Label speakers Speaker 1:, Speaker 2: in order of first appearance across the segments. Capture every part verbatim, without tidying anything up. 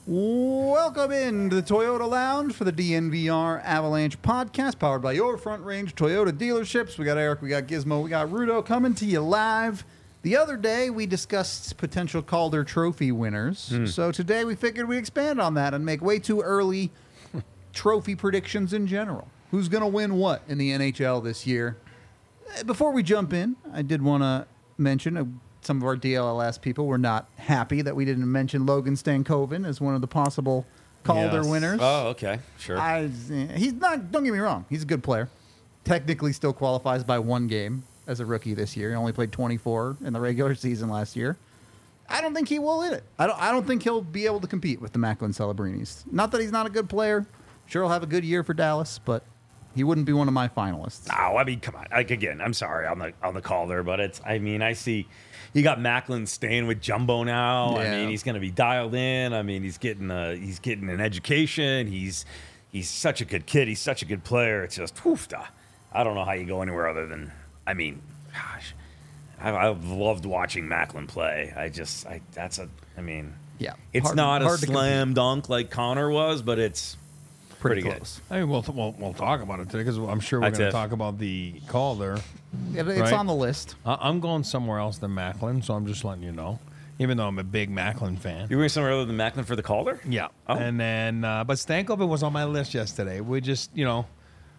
Speaker 1: Welcome in to the Toyota Lounge for the D N V R Avalanche podcast, powered by your Front Range Toyota dealerships. We got Eric, we got Gizmo, we got Rudo coming to you live. The other day, we discussed potential Calder Trophy winners. Mm. So today, we figured we'd expand on that and make way too early trophy predictions in general. Who's going to win what in the N H L this year? Before we jump in, I did want to mention uh, some of our D L L S people were not happy that we didn't mention Logan Stankoven as one of the possible Calder
Speaker 2: yes.
Speaker 1: winners.
Speaker 2: Oh, okay, sure.
Speaker 1: I, he's not. Don't get me wrong. He's a good player. Technically, still qualifies by one game as a rookie this year. He only played twenty-four in the regular season last year. I don't think he will hit it. I don't. I don't think he'll be able to compete with the Macklin Celebrinis. Not that he's not a good player. Sure, he'll have a good year for Dallas, but he wouldn't be one of my finalists.
Speaker 2: Oh, I mean, come on. Like again, I'm sorry on the on the Calder, but it's. I mean, I see. You got Macklin staying with Jumbo now.
Speaker 1: Yeah.
Speaker 2: I mean, he's going to be dialed in. I mean, he's getting a, he's getting an education. He's he's such a good kid. He's such a good player. It's just, woof, I don't know how you go anywhere other than. I mean, gosh, I, I've loved watching Macklin play. I just, I that's a. I mean,
Speaker 1: yeah,
Speaker 2: it's
Speaker 1: hard,
Speaker 2: not
Speaker 1: hard
Speaker 2: a slam dunk like Connor was, but it's
Speaker 1: pretty,
Speaker 2: pretty
Speaker 1: close.
Speaker 2: good.
Speaker 3: I mean, we'll, we'll we'll talk about it today because I'm sure we're
Speaker 2: That's
Speaker 3: going
Speaker 2: it.
Speaker 3: to talk about the Calder.
Speaker 1: Yeah, it's
Speaker 3: right?
Speaker 1: on the list.
Speaker 3: I, I'm going somewhere else than Macklin, so I'm just letting you know. Even though I'm a big Macklin fan.
Speaker 2: You're going somewhere other than Macklin for the Calder?
Speaker 3: Yeah.
Speaker 2: Oh.
Speaker 3: And then, uh, but Stankoven was on my list yesterday. We just, you know,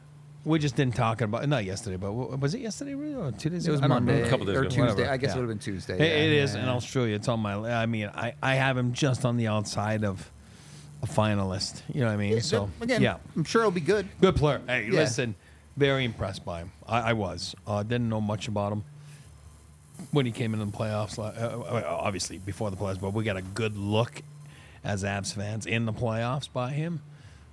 Speaker 3: we just didn't talk about not yesterday, but was it yesterday really, or two days
Speaker 1: It
Speaker 3: ago?
Speaker 1: was
Speaker 3: I don't
Speaker 1: Monday
Speaker 3: remember.
Speaker 2: A couple days
Speaker 1: or
Speaker 2: ago.
Speaker 1: Tuesday.
Speaker 3: Whatever.
Speaker 1: I guess
Speaker 3: Yeah.
Speaker 1: it would have been Tuesday.
Speaker 3: It,
Speaker 1: yeah.
Speaker 3: it is
Speaker 1: Yeah.
Speaker 3: in Australia. It's on my. I mean, I, I have him just on the outside of a finalist. You know what I mean?
Speaker 1: Yeah,
Speaker 3: so
Speaker 1: again,
Speaker 3: yeah,
Speaker 1: I'm sure he'll be good.
Speaker 3: good player. Hey,
Speaker 1: Yeah.
Speaker 3: listen, very impressed by him. I, I was. Uh, didn't know much about him when he came into the playoffs. Uh, obviously, before the playoffs, but we got a good look as Avs fans in the playoffs by him.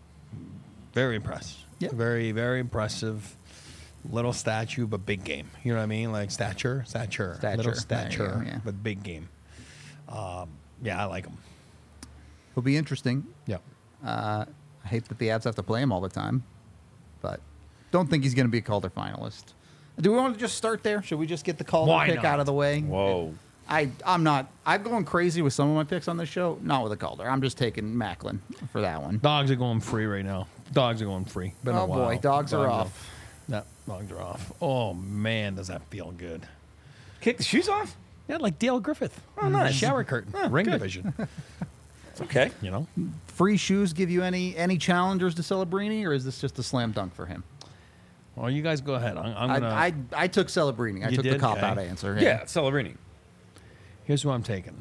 Speaker 3: Very impressed.
Speaker 1: Yeah.
Speaker 3: Very, very impressive. Little statue, but big game. You know what I mean? Like stature, stature,
Speaker 1: Stature.
Speaker 3: little
Speaker 1: There you
Speaker 3: stature,
Speaker 1: go, yeah.
Speaker 3: but big game. Um, yeah, I like him.
Speaker 1: It'll be interesting.
Speaker 3: Yeah.
Speaker 1: Uh, I hate that the Avs have to play him all the time, but don't think he's going to be a Calder finalist. Do we want to just start there? Should we just get the Calder
Speaker 3: Why
Speaker 1: pick
Speaker 3: not?
Speaker 1: out of the way?
Speaker 2: Whoa.
Speaker 1: I, I'm not. I'm going crazy with some of my picks on this show. Not with the Calder. I'm just taking Macklin for that one.
Speaker 3: Dogs are going free right now. Dogs are going free. Been a
Speaker 1: Oh,
Speaker 3: while.
Speaker 1: boy. Dogs are off.
Speaker 3: Yeah, dogs are off. Oh, man, does that feel good.
Speaker 2: Kick the shoes off?
Speaker 3: Yeah, like Dale Griffith.
Speaker 2: Oh, nice.
Speaker 3: Shower curtain.
Speaker 2: Oh,
Speaker 3: Ring
Speaker 2: good.
Speaker 3: division.
Speaker 2: It's okay.
Speaker 3: You know?
Speaker 1: Free shoes give you any any challengers to Celebrini, or is this just a slam dunk for him?
Speaker 3: Well, you guys go ahead. I'm, I'm going to.
Speaker 1: I, I I took Celebrini. I
Speaker 3: You
Speaker 1: took the
Speaker 3: did?
Speaker 1: cop out
Speaker 3: Okay.
Speaker 1: answer.
Speaker 2: Yeah, Celebrini.
Speaker 3: Here's who I'm taking.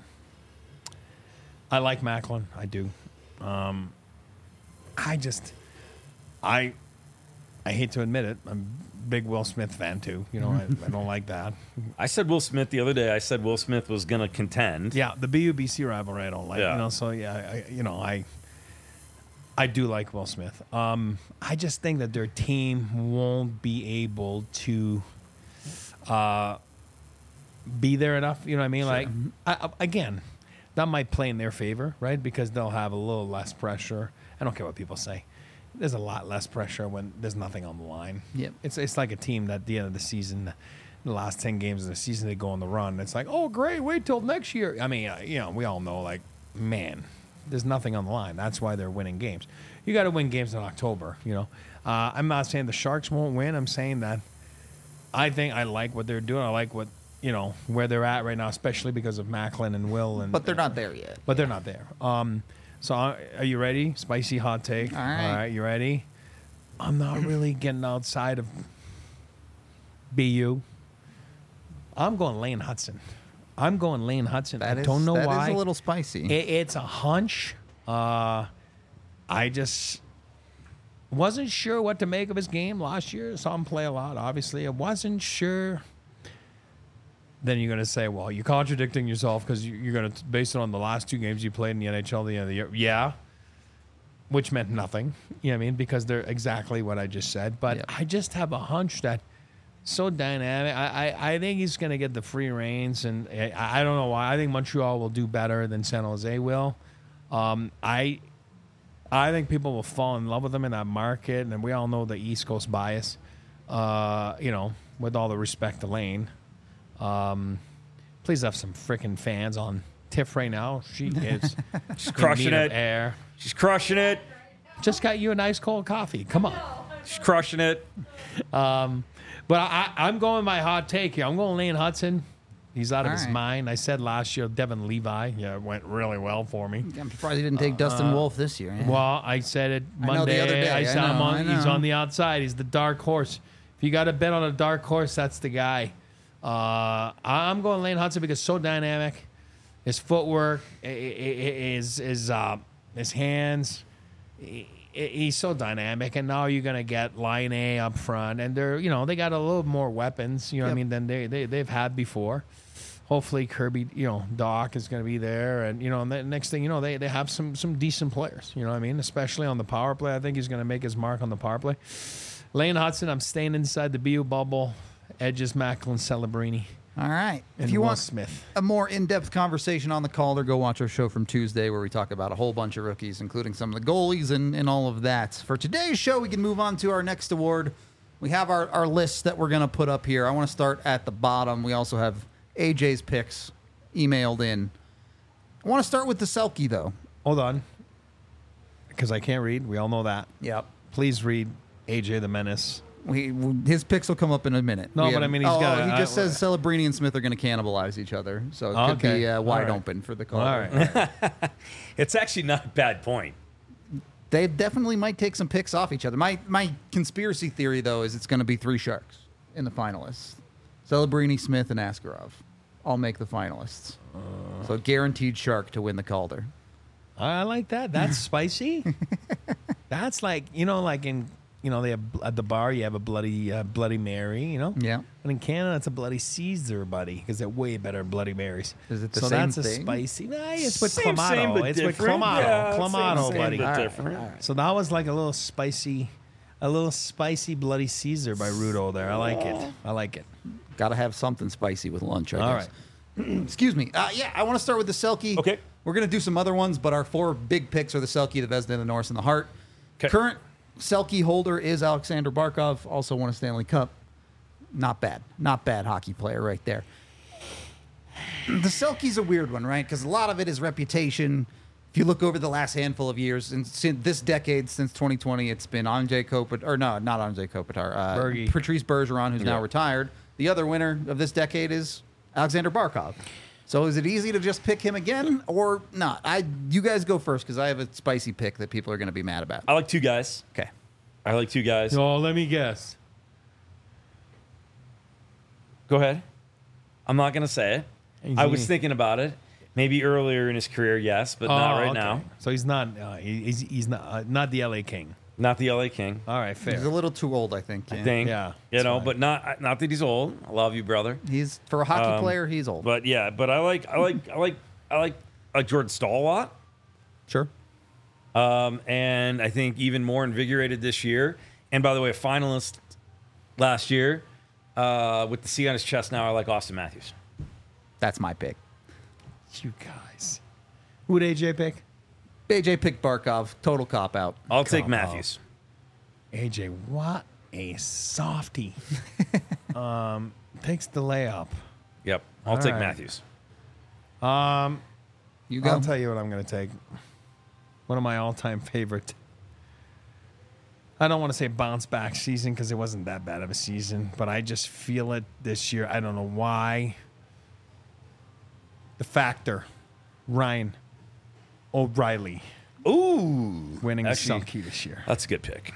Speaker 3: I like Macklin. I do. Um, I just, I, I hate to admit it. I'm a big Will Smith fan too. You know, I, I don't like that.
Speaker 2: I said Will Smith the other day. I said Will Smith was going to contend.
Speaker 3: Yeah, the B U B C rivalry I don't like.
Speaker 2: Yeah.
Speaker 3: You know, so yeah, I, you know, I, I do like Will Smith. Um, I just think that their team won't be able to, uh, be there enough. You know what I mean? Like, I, I- again, that might play in their favor, right? Because they'll have a little less pressure. I don't care what people say. There's a lot less pressure when there's nothing on the line.
Speaker 1: Yep.
Speaker 3: It's it's like a team that at the end of the season, the last ten games of the season, they go on the run. It's like, oh, great, wait till next year. I mean, uh, you know, we all know, like, man, there's nothing on the line. That's why they're winning games. You got to win games in October, you know. Uh, I'm not saying the Sharks won't win. I'm saying that I think I like what they're doing. I like what, you know, where they're at right now, especially because of Macklin and Will. And
Speaker 1: But they're not there yet.
Speaker 3: But they're not there. Um, so uh, are you ready? Spicy hot take.
Speaker 1: All right.
Speaker 3: All right, you ready? I'm not really getting outside of B U. I'm going Lane Hudson. I'm going Lane Hudson.
Speaker 1: That
Speaker 3: I
Speaker 1: is-
Speaker 3: don't know
Speaker 1: that is
Speaker 3: why.
Speaker 1: a little spicy.
Speaker 3: It, it's a hunch. Uh, I just wasn't sure what to make of his game last year. Saw him play a lot, obviously. I wasn't sure. Then you're going to say, well, you're contradicting yourself because you're going to base it on the last two games you played in the N H L at the end of the year. Yeah. Which meant nothing. You know what I mean? Because they're exactly what I just said. But
Speaker 1: Yep.
Speaker 3: I just have a hunch that so dynamic. I, I, I think he's going to get the free reins. And I, I don't know why. I think Montreal will do better than San Jose will. Um, I I think people will fall in love with him in that market. And we all know the East Coast bias, uh, you know, with all the respect to Lane. Um, please have some freaking fans on Tiff right now. She is
Speaker 2: She's crushing
Speaker 3: in need of
Speaker 2: it.
Speaker 3: air.
Speaker 2: She's crushing it.
Speaker 3: Just got you a nice cold coffee. Come on.
Speaker 2: She's crushing it.
Speaker 3: But I, I, I'm going my hot take here. I'm going Lane Hudson. He's out of
Speaker 1: All
Speaker 3: his
Speaker 1: right.
Speaker 3: mind. I said last year Devin Levi. Yeah, it went really well for me.
Speaker 1: I'm surprised he didn't take Dustin Wolf this year. Yeah.
Speaker 3: Well, I said it
Speaker 1: I know the
Speaker 3: Monday.
Speaker 1: other day.
Speaker 3: I
Speaker 1: I
Speaker 3: said him
Speaker 1: know,
Speaker 3: on,
Speaker 1: I
Speaker 3: he's
Speaker 1: know.
Speaker 3: on the outside. He's the dark horse. If you got to bet on a dark horse, that's the guy. Uh, I'm going Lane Hudson because so dynamic. His footwork, i- i- i- his his uh, his hands. He- He's so dynamic, and now you're gonna get line A up front, and they're you know they got a little more weapons, you know what I
Speaker 1: Yep.
Speaker 3: mean, than they, they they've had before. Hopefully Kirby, you know, Doc is gonna be there, and you know, and the next thing you know, they, they have some some decent players, you know what I mean, especially on the power play. I think he's gonna make his mark on the power play. Lane Hudson, I'm staying inside the B U bubble. Edges, Macklin, Celebrini,
Speaker 1: All right.
Speaker 3: and
Speaker 1: If you
Speaker 3: Will
Speaker 1: want
Speaker 3: Smith.
Speaker 1: a more in-depth conversation on the Calder, go watch our show from Tuesday where we talk about a whole bunch of rookies, including some of the goalies and, and all of that. For today's show, we can move on to our next award. We have our, our list that we're going to put up here. I want to start at the bottom. We also have A J's picks emailed in. I want to start with the Selke, though.
Speaker 3: Hold on, because I can't read. We all know that.
Speaker 1: Yep.
Speaker 3: Please read A J the Menace.
Speaker 1: We, his picks will come up in a minute.
Speaker 3: No,
Speaker 1: We
Speaker 3: but
Speaker 1: have-
Speaker 3: I mean, he's
Speaker 1: oh,
Speaker 3: got
Speaker 1: oh,
Speaker 3: a-
Speaker 1: he just
Speaker 3: I-
Speaker 1: says Celebrini and Smith are going to cannibalize each other. So it could
Speaker 3: Okay.
Speaker 1: be uh, wide
Speaker 3: All right.
Speaker 1: open for the
Speaker 3: All
Speaker 1: Calder.
Speaker 3: right.
Speaker 2: It's actually not a bad point.
Speaker 1: They definitely might take some picks off each other. My my conspiracy theory, though, is it's going to be three Sharks in the finalists. Celebrini, Smith, and Askarov all make the finalists. So guaranteed Shark to win the Calder.
Speaker 3: I like that. That's spicy. That's like you know, like in you know, they have at the bar you have a bloody uh, Bloody Mary, you know.
Speaker 1: Yeah.
Speaker 3: But in Canada, it's a Bloody Caesar, buddy, because they're way better Bloody Marys.
Speaker 1: Is it the
Speaker 3: so
Speaker 1: same
Speaker 3: that's
Speaker 1: thing?
Speaker 3: a spicy. Nah, it's with
Speaker 2: Same,
Speaker 3: clamato.
Speaker 2: same, but
Speaker 3: it's with
Speaker 2: different.
Speaker 3: clamato.
Speaker 2: Yeah, same,
Speaker 3: clamato,
Speaker 2: same,
Speaker 3: buddy.
Speaker 2: but
Speaker 1: All right,
Speaker 2: different.
Speaker 1: all right.
Speaker 3: So that was like a little spicy, a little spicy Bloody Caesar by Rudo there. I like it. I like it.
Speaker 1: Got to have something spicy with lunch, I
Speaker 3: All
Speaker 1: guess. Excuse me. Uh, yeah, I want to start with the Selke.
Speaker 2: Okay.
Speaker 1: We're going to do some other ones, but our four big picks are the Selke, the Vezina, the Norris, and the Hart.
Speaker 2: 'Kay.
Speaker 1: Current Selke holder is Alexander Barkov, also won a Stanley Cup. Not bad. Not bad hockey player right there. The Selke's a weird one, right? Because a lot of it is reputation. If you look over the last handful of years, and since this decade, since twenty twenty, it's been Andrzej Kopitar, or no, not Andrzej Kopitar, uh,
Speaker 3: Bergie.
Speaker 1: Patrice Bergeron, who's now
Speaker 2: Yeah.
Speaker 1: retired. The other winner of this decade is Alexander Barkov. So is it easy to just pick him again or not? I, you guys go first because I have a spicy pick that people are going to be mad about.
Speaker 2: I like two guys.
Speaker 1: Okay.
Speaker 2: I like two guys.
Speaker 3: Oh, let me guess.
Speaker 2: Go ahead. I'm not going to say it.
Speaker 3: He's
Speaker 2: I was
Speaker 3: easy.
Speaker 2: thinking about it. Maybe earlier in his career, yes, but not
Speaker 3: Oh,
Speaker 2: right
Speaker 3: okay.
Speaker 2: now.
Speaker 3: So he's not. Uh, he- he's he's not uh, not the L A King.
Speaker 2: Not the L A King.
Speaker 3: All right, fair.
Speaker 1: He's a little too old, I think.
Speaker 2: I
Speaker 1: yeah.
Speaker 2: think.
Speaker 3: Yeah,
Speaker 2: You
Speaker 3: it's
Speaker 2: know,
Speaker 3: fine.
Speaker 2: but not not that he's old. I love you, brother.
Speaker 1: He's for a hockey
Speaker 2: Um,
Speaker 1: player, he's old.
Speaker 2: But yeah, but I like I like I like I like I like Jordan Stahl a lot.
Speaker 1: Sure.
Speaker 2: Um, and I think even more invigorated this year. And by the way, a finalist last year uh, with the C on his chest. Now I like Austin Matthews.
Speaker 1: That's my pick.
Speaker 3: You guys. Who would A J pick?
Speaker 1: A J picked Barkov. Total cop out.
Speaker 2: I'll take
Speaker 3: Come
Speaker 2: Matthews.
Speaker 3: A J, what a softy. um, takes the layup.
Speaker 2: Yep, I'll
Speaker 3: All
Speaker 2: take
Speaker 3: right.
Speaker 2: Matthews.
Speaker 3: Um,
Speaker 1: You go.
Speaker 3: I'll tell you what I'm going to take. One of my all-time favorite. I don't want to say bounce back season because it wasn't that bad of a season, but I just feel it this year. I don't know why. The Factor, Ryan O'Reilly,
Speaker 2: Ooh,
Speaker 3: winning
Speaker 2: actually,
Speaker 3: the Selke this year.
Speaker 2: that's a good pick.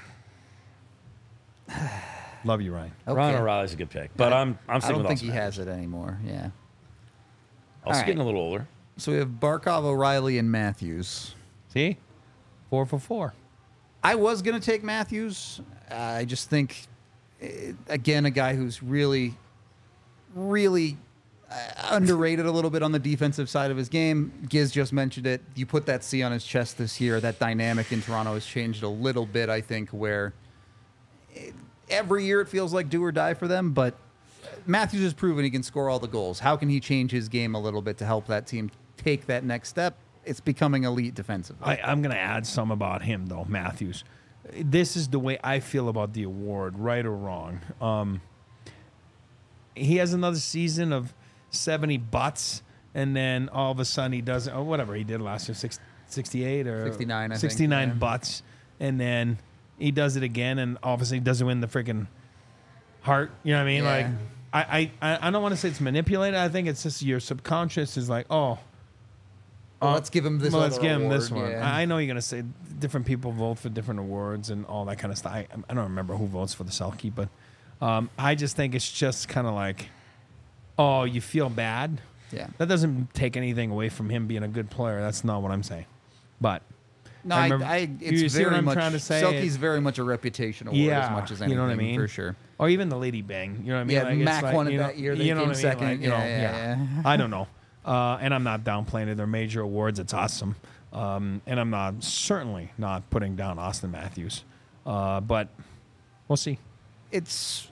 Speaker 3: Love you, Ryan.
Speaker 1: Okay.
Speaker 2: Ron O'Reilly's a good pick, but I'm I'm
Speaker 1: I
Speaker 2: sticking
Speaker 1: don't
Speaker 2: with
Speaker 1: think
Speaker 2: Austin
Speaker 1: he
Speaker 2: Matthews.
Speaker 1: has it anymore. Yeah.
Speaker 2: Also
Speaker 1: All
Speaker 2: getting
Speaker 1: right.
Speaker 2: a little older.
Speaker 1: So we have Barkov, O'Reilly, and Matthews.
Speaker 3: See? Four for four.
Speaker 1: I was going to take Matthews. Uh, I just think, eh, again, a guy who's really, really uh, underrated a little bit on the defensive side of his game. Giz just mentioned it. You put that C on his chest this year. That dynamic in Toronto has changed a little bit, I think, where it, every year it feels like do or die for them. But Matthews has proven he can score all the goals. How can he change his game a little bit to help that team take that next step? It's becoming elite defensively.
Speaker 3: I, I'm going to add some about him, though, Matthews. This is the way I feel about the award, right or wrong. Um, he has another season of seventy butts, and then all of a sudden he does or whatever he did last year, six, sixty-eight or
Speaker 1: sixty-nine, I think,
Speaker 3: sixty-nine
Speaker 1: yeah.
Speaker 3: butts, and then he does it again, and all of a sudden he doesn't win the freaking heart. You know what I mean?
Speaker 1: Yeah.
Speaker 3: Like, I, I, I don't want to say it's manipulated. I think it's just your subconscious is like, oh.
Speaker 1: Well, let's give him this.
Speaker 3: Well, let's
Speaker 1: other
Speaker 3: give him this
Speaker 1: award,
Speaker 3: one.
Speaker 1: yeah.
Speaker 3: I I know you're gonna say different people vote for different awards and all that kind of stuff. I, I don't remember who votes for the Selke, but um, I just think it's just kind of like, oh, you feel bad.
Speaker 1: Yeah.
Speaker 3: That doesn't take anything away from him being a good player. That's not what I'm saying. But
Speaker 1: No,
Speaker 3: I
Speaker 1: I,
Speaker 3: remember-
Speaker 1: I, it's
Speaker 3: you see what
Speaker 1: very
Speaker 3: I'm
Speaker 1: much.
Speaker 3: trying to say?
Speaker 1: Selke's very much a reputation award
Speaker 3: yeah,
Speaker 1: as much as
Speaker 3: you
Speaker 1: anything.
Speaker 3: know what I mean,
Speaker 1: For sure.
Speaker 3: Or even the Lady Bang. You know what I mean?
Speaker 1: Yeah,
Speaker 3: Like, it's
Speaker 1: Mac
Speaker 3: like,
Speaker 1: won it
Speaker 3: you know,
Speaker 1: that year. They
Speaker 3: you know
Speaker 1: came
Speaker 3: what I mean?
Speaker 1: second.
Speaker 3: Like, you know,
Speaker 1: Yeah, yeah, yeah.
Speaker 3: I don't know. Uh, and I'm not downplaying it. They're major awards. It's awesome. Um, and I'm not certainly not putting down Austin Matthews. Uh, but we'll see.
Speaker 1: It's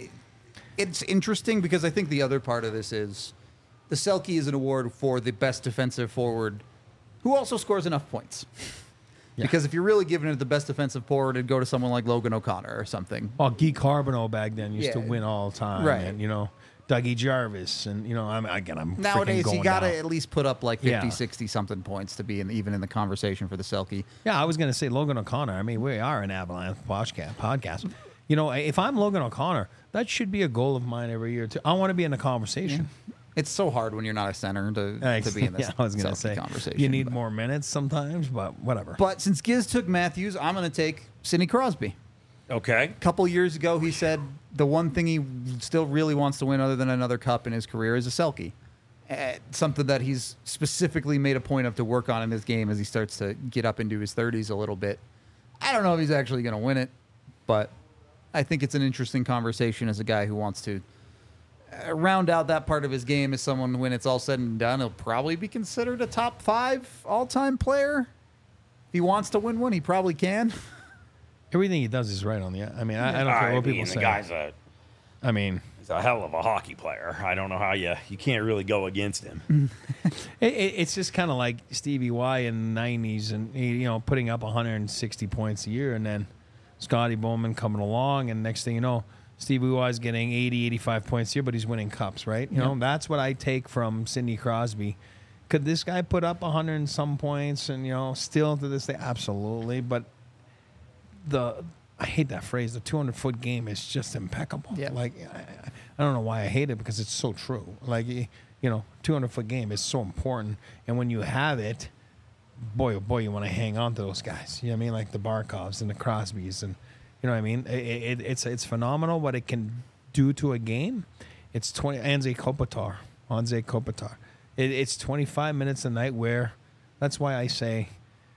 Speaker 1: it's interesting because I think the other part of this is the Selke is an award for the best defensive forward who also scores enough points.
Speaker 3: Yeah.
Speaker 1: Because if you're really giving it the best defensive forward, it'd go to someone like Logan O'Connor or something.
Speaker 3: Well, Guy Carbonneau back then used to
Speaker 1: Yeah.
Speaker 3: win all the time.
Speaker 1: Right.
Speaker 3: And, you know, Dougie Jarvis. And, you know, I'm again, I'm
Speaker 1: Nowadays,
Speaker 3: going
Speaker 1: you got to
Speaker 3: down.
Speaker 1: at least put up like fifty,
Speaker 3: Yeah.
Speaker 1: sixty something points to be in, even in the conversation for the Selke.
Speaker 3: Yeah, I was going to say Logan O'Connor. I mean, we are an Avalanche podcast. podcast. You know, if I'm Logan O'Connor, that should be a goal of mine every year, too. I want to be in the conversation.
Speaker 1: It's so hard when you're not a center to, to be in this
Speaker 3: yeah, I was going to
Speaker 1: Selke
Speaker 3: say,
Speaker 1: conversation.
Speaker 3: you need
Speaker 1: but.
Speaker 3: more minutes sometimes, but whatever.
Speaker 1: But since Giz took Matthews, I'm going to take Sidney Crosby.
Speaker 2: Okay.
Speaker 1: A couple years ago, he said the one thing he still really wants to win other than another cup in his career is a Selke. Uh, something that he's specifically made a point of to work on in this game as he starts to get up into his thirties a little bit. I don't know if he's actually going to win it, but I think it's an interesting conversation as a guy who wants to uh, round out that part of his game as someone, when it's all said and done, he'll probably be considered a top five all-time player. If he wants to win one, he probably can.
Speaker 3: Everything he does is right on the. I mean, I, I don't care
Speaker 2: I
Speaker 3: what
Speaker 2: mean,
Speaker 3: people
Speaker 2: the
Speaker 3: say.
Speaker 2: guy's a
Speaker 3: I mean,
Speaker 2: he's a hell of a hockey player. I don't know how you you can't really go against him.
Speaker 3: it, it, it's just kind of like Stevie Y in the nineties, and he, you know, putting up one hundred sixty points a year, and then Scotty Bowman coming along, and next thing you know, Stevie Y is getting eighty, eighty-five points a year, but he's winning cups, right? You
Speaker 1: Yep.
Speaker 3: know, that's what I take from Sidney Crosby. Could this guy put up one hundred and some points, and you know, still to this day, absolutely, but the I hate that phrase. The two hundred foot game is just impeccable.
Speaker 1: Yeah.
Speaker 3: Like I, I don't know why I hate it, because it's so true. Like you know, two hundred foot game is so important, and when you have it, boy oh boy, you want to hang on to those guys. You know what I mean? Like the Barkovs and the Crosbys, and you know what I mean. It, it, it's it's phenomenal what it can do to a game. It's twenty. Anze Kopitar, Anze Kopitar. It, it's twenty-five minutes a night where. That's why I say.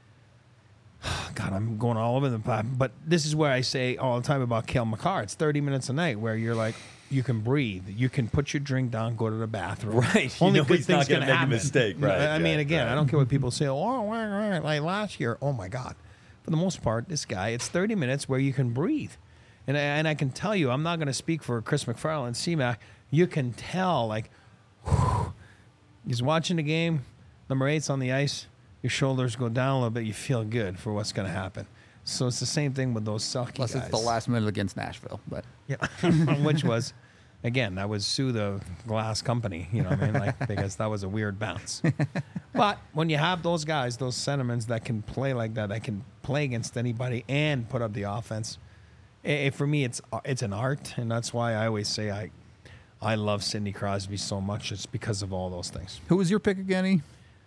Speaker 3: God, I'm going all over the place. But this is where I say all the time about Cale Makar. It's thirty minutes a night where you're like, you can breathe. You can put your drink down, go to the bathroom.
Speaker 2: Right. You
Speaker 3: Only
Speaker 2: know
Speaker 3: good
Speaker 2: he's not
Speaker 3: things
Speaker 2: gonna
Speaker 3: can
Speaker 2: make a
Speaker 3: happen.
Speaker 2: mistake. Right,
Speaker 3: I mean,
Speaker 2: right,
Speaker 3: again,
Speaker 2: right.
Speaker 3: I don't care what people say. Oh, right, right, like last year. Oh, my God. For the most part, this guy, it's thirty minutes where you can breathe. And I, and I can tell you, I'm not going to speak for Chris McFarland, C MAC. You can tell, like, whew, he's watching the game. Number eight's on the ice. Your shoulders go down a little bit. You feel good for what's going to happen. So it's the same thing with those Selke
Speaker 1: Unless
Speaker 3: guys.
Speaker 1: it's the last minute against Nashville. But
Speaker 3: Yeah, which was, again, that was sue the glass company. You know what I mean? Like, because that was a weird bounce. But when you have those guys, those sentiments that can play like that, that can play against anybody and put up the offense, it, for me, it's it's an art, and that's why I always say I, I love Sidney Crosby so much. It's because of all those things.
Speaker 1: who was your pick again, E?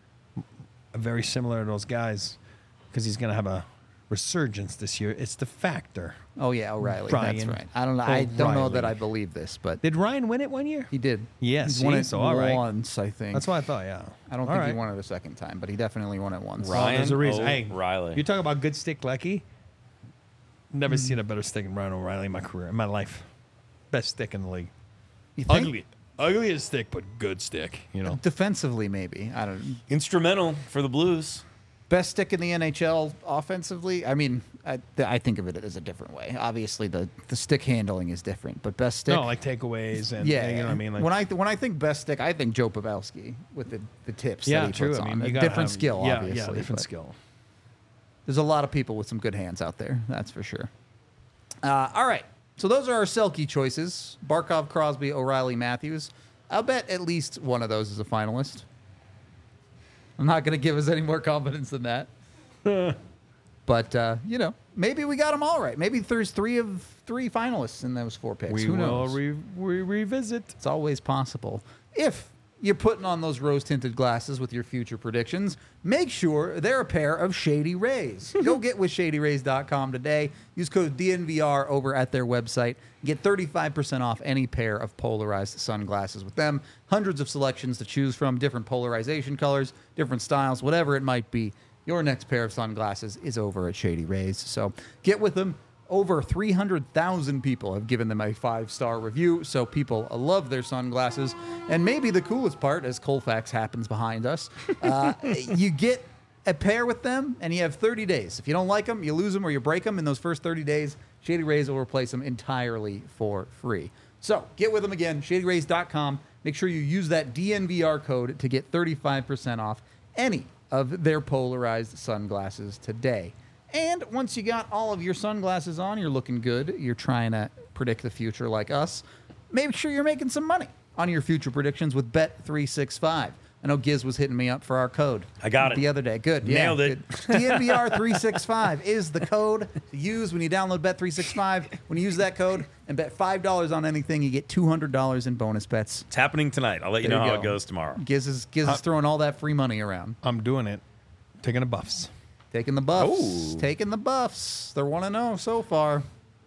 Speaker 3: Very similar to those guys, because he's going to have a resurgence this year. It's the factor.
Speaker 1: Oh, yeah, O'Reilly. That's
Speaker 3: Ryan
Speaker 1: right. I don't know. I don't know that
Speaker 3: O'Reilly.
Speaker 1: I believe this, but
Speaker 3: Did Ryan win it one year?
Speaker 1: he did.
Speaker 3: Yes,
Speaker 1: He's won
Speaker 3: see?
Speaker 1: it
Speaker 3: So, all right.
Speaker 1: once, I think.
Speaker 3: That's what I thought, yeah.
Speaker 1: I don't
Speaker 3: All
Speaker 1: think he
Speaker 3: right.
Speaker 1: won it a second time, but he definitely won it once.
Speaker 3: Well, there's a reason. Hey,
Speaker 2: O'Reilly.
Speaker 3: You talk about good stick, Lecky. Never seen a better stick than Ryan O'Reilly in my career, in my life. Best stick in the league.
Speaker 1: You think?
Speaker 3: Ugly, ugliest stick, but good stick. You know.
Speaker 1: Defensively, maybe. I don't.
Speaker 2: Instrumental for the Blues.
Speaker 1: Best stick in the N H L offensively. I mean, I, I think of it as a different way. Obviously, the, the stick handling is different, but best stick.
Speaker 3: No, like takeaways and
Speaker 1: yeah,
Speaker 3: you know what I mean. Like,
Speaker 1: when I when I think best stick, I think Joe Pavelski with the, the tips
Speaker 3: yeah,
Speaker 1: that he
Speaker 3: true.
Speaker 1: puts
Speaker 3: I mean,
Speaker 1: on.
Speaker 3: you
Speaker 1: A
Speaker 3: gotta
Speaker 1: different
Speaker 3: have-
Speaker 1: skill,
Speaker 3: yeah,
Speaker 1: obviously.
Speaker 3: Yeah, different
Speaker 1: but
Speaker 3: skill.
Speaker 1: There's a lot of people with some good hands out there. That's for sure. Uh, all right, so those are our Selke choices: Barkov, Crosby, O'Reilly, Matthews. I'll bet at least one of those is a finalist. I'm not going to give us any more confidence than that. But, uh, you know, maybe we got them all right. Maybe there's three of three finalists in those four picks.
Speaker 3: We
Speaker 1: Who
Speaker 3: will
Speaker 1: knows?
Speaker 3: re- re- revisit.
Speaker 1: It's always possible. If you're putting on those rose-tinted glasses with your future predictions, make sure they're a pair of Shady Rays. Go get with shady rays dot com today. Use code D N V R over at their website. Get thirty-five percent off any pair of polarized sunglasses with them. Hundreds of selections to choose from, different polarization colors, different styles, whatever it might be. Your next pair of sunglasses is over at Shady Rays. So get with them. Over three hundred thousand people have given them a five-star review, so people love their sunglasses. And maybe the coolest part, as Colfax happens behind us, uh, you get a pair with them, and you have thirty days. If you don't like them, you lose them or you break them in those first thirty days, Shady Rays will replace them entirely for free. So get with them again, shady rays dot com. Make sure you use that D N V R code to get thirty-five percent off any of their polarized sunglasses today. And once you got all of your sunglasses on, you're looking good, you're trying to predict the future like us, make sure you're making some money on your future predictions with Bet three sixty-five. I know Giz was hitting me up for our code.
Speaker 2: I got it.
Speaker 1: The other day. Good.
Speaker 2: Nailed
Speaker 1: yeah,
Speaker 2: it.
Speaker 1: Good. D N V R three sixty-five is the code to use when you download Bet three sixty-five. When you use that code and bet five dollars on anything, you get two hundred dollars in bonus bets.
Speaker 2: It's happening tonight. I'll let you
Speaker 1: There
Speaker 2: know
Speaker 1: you
Speaker 2: how
Speaker 1: go.
Speaker 2: it goes tomorrow.
Speaker 1: Giz is, Giz is throwing all that free money around.
Speaker 3: I'm doing it. Taking the Buffs.
Speaker 1: Taking the Buffs.
Speaker 2: Oh.
Speaker 1: Taking the Buffs. They're one and oh so far.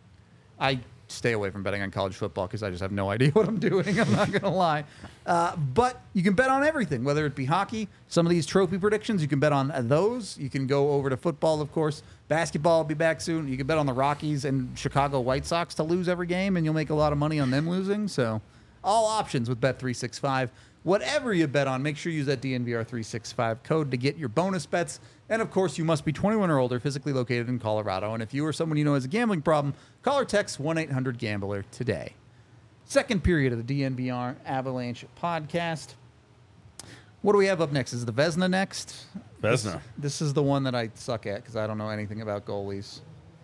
Speaker 1: I stay away from betting on college football because I just have no idea what I'm doing. I'm not going to lie. Uh, but you can bet on everything, whether it be hockey. Some of these trophy predictions, you can bet on those. You can go over to football, of course. Basketball will be back soon. You can bet on the Rockies and Chicago White Sox to lose every game, and you'll make a lot of money on them losing. So all options with Bet three sixty-five. Whatever you bet on, make sure you use that D N V R three sixty-five code to get your bonus bets. And, of course, you must be twenty-one or older, physically located in Colorado. And if you or someone you know has a gambling problem, call or text one eight hundred gambler today. Second period of the D N V R Avalanche podcast. What do we have up next? Is the Vezina next?
Speaker 2: Vezina.
Speaker 1: This, this is the one that I suck at because I don't know anything about goalies.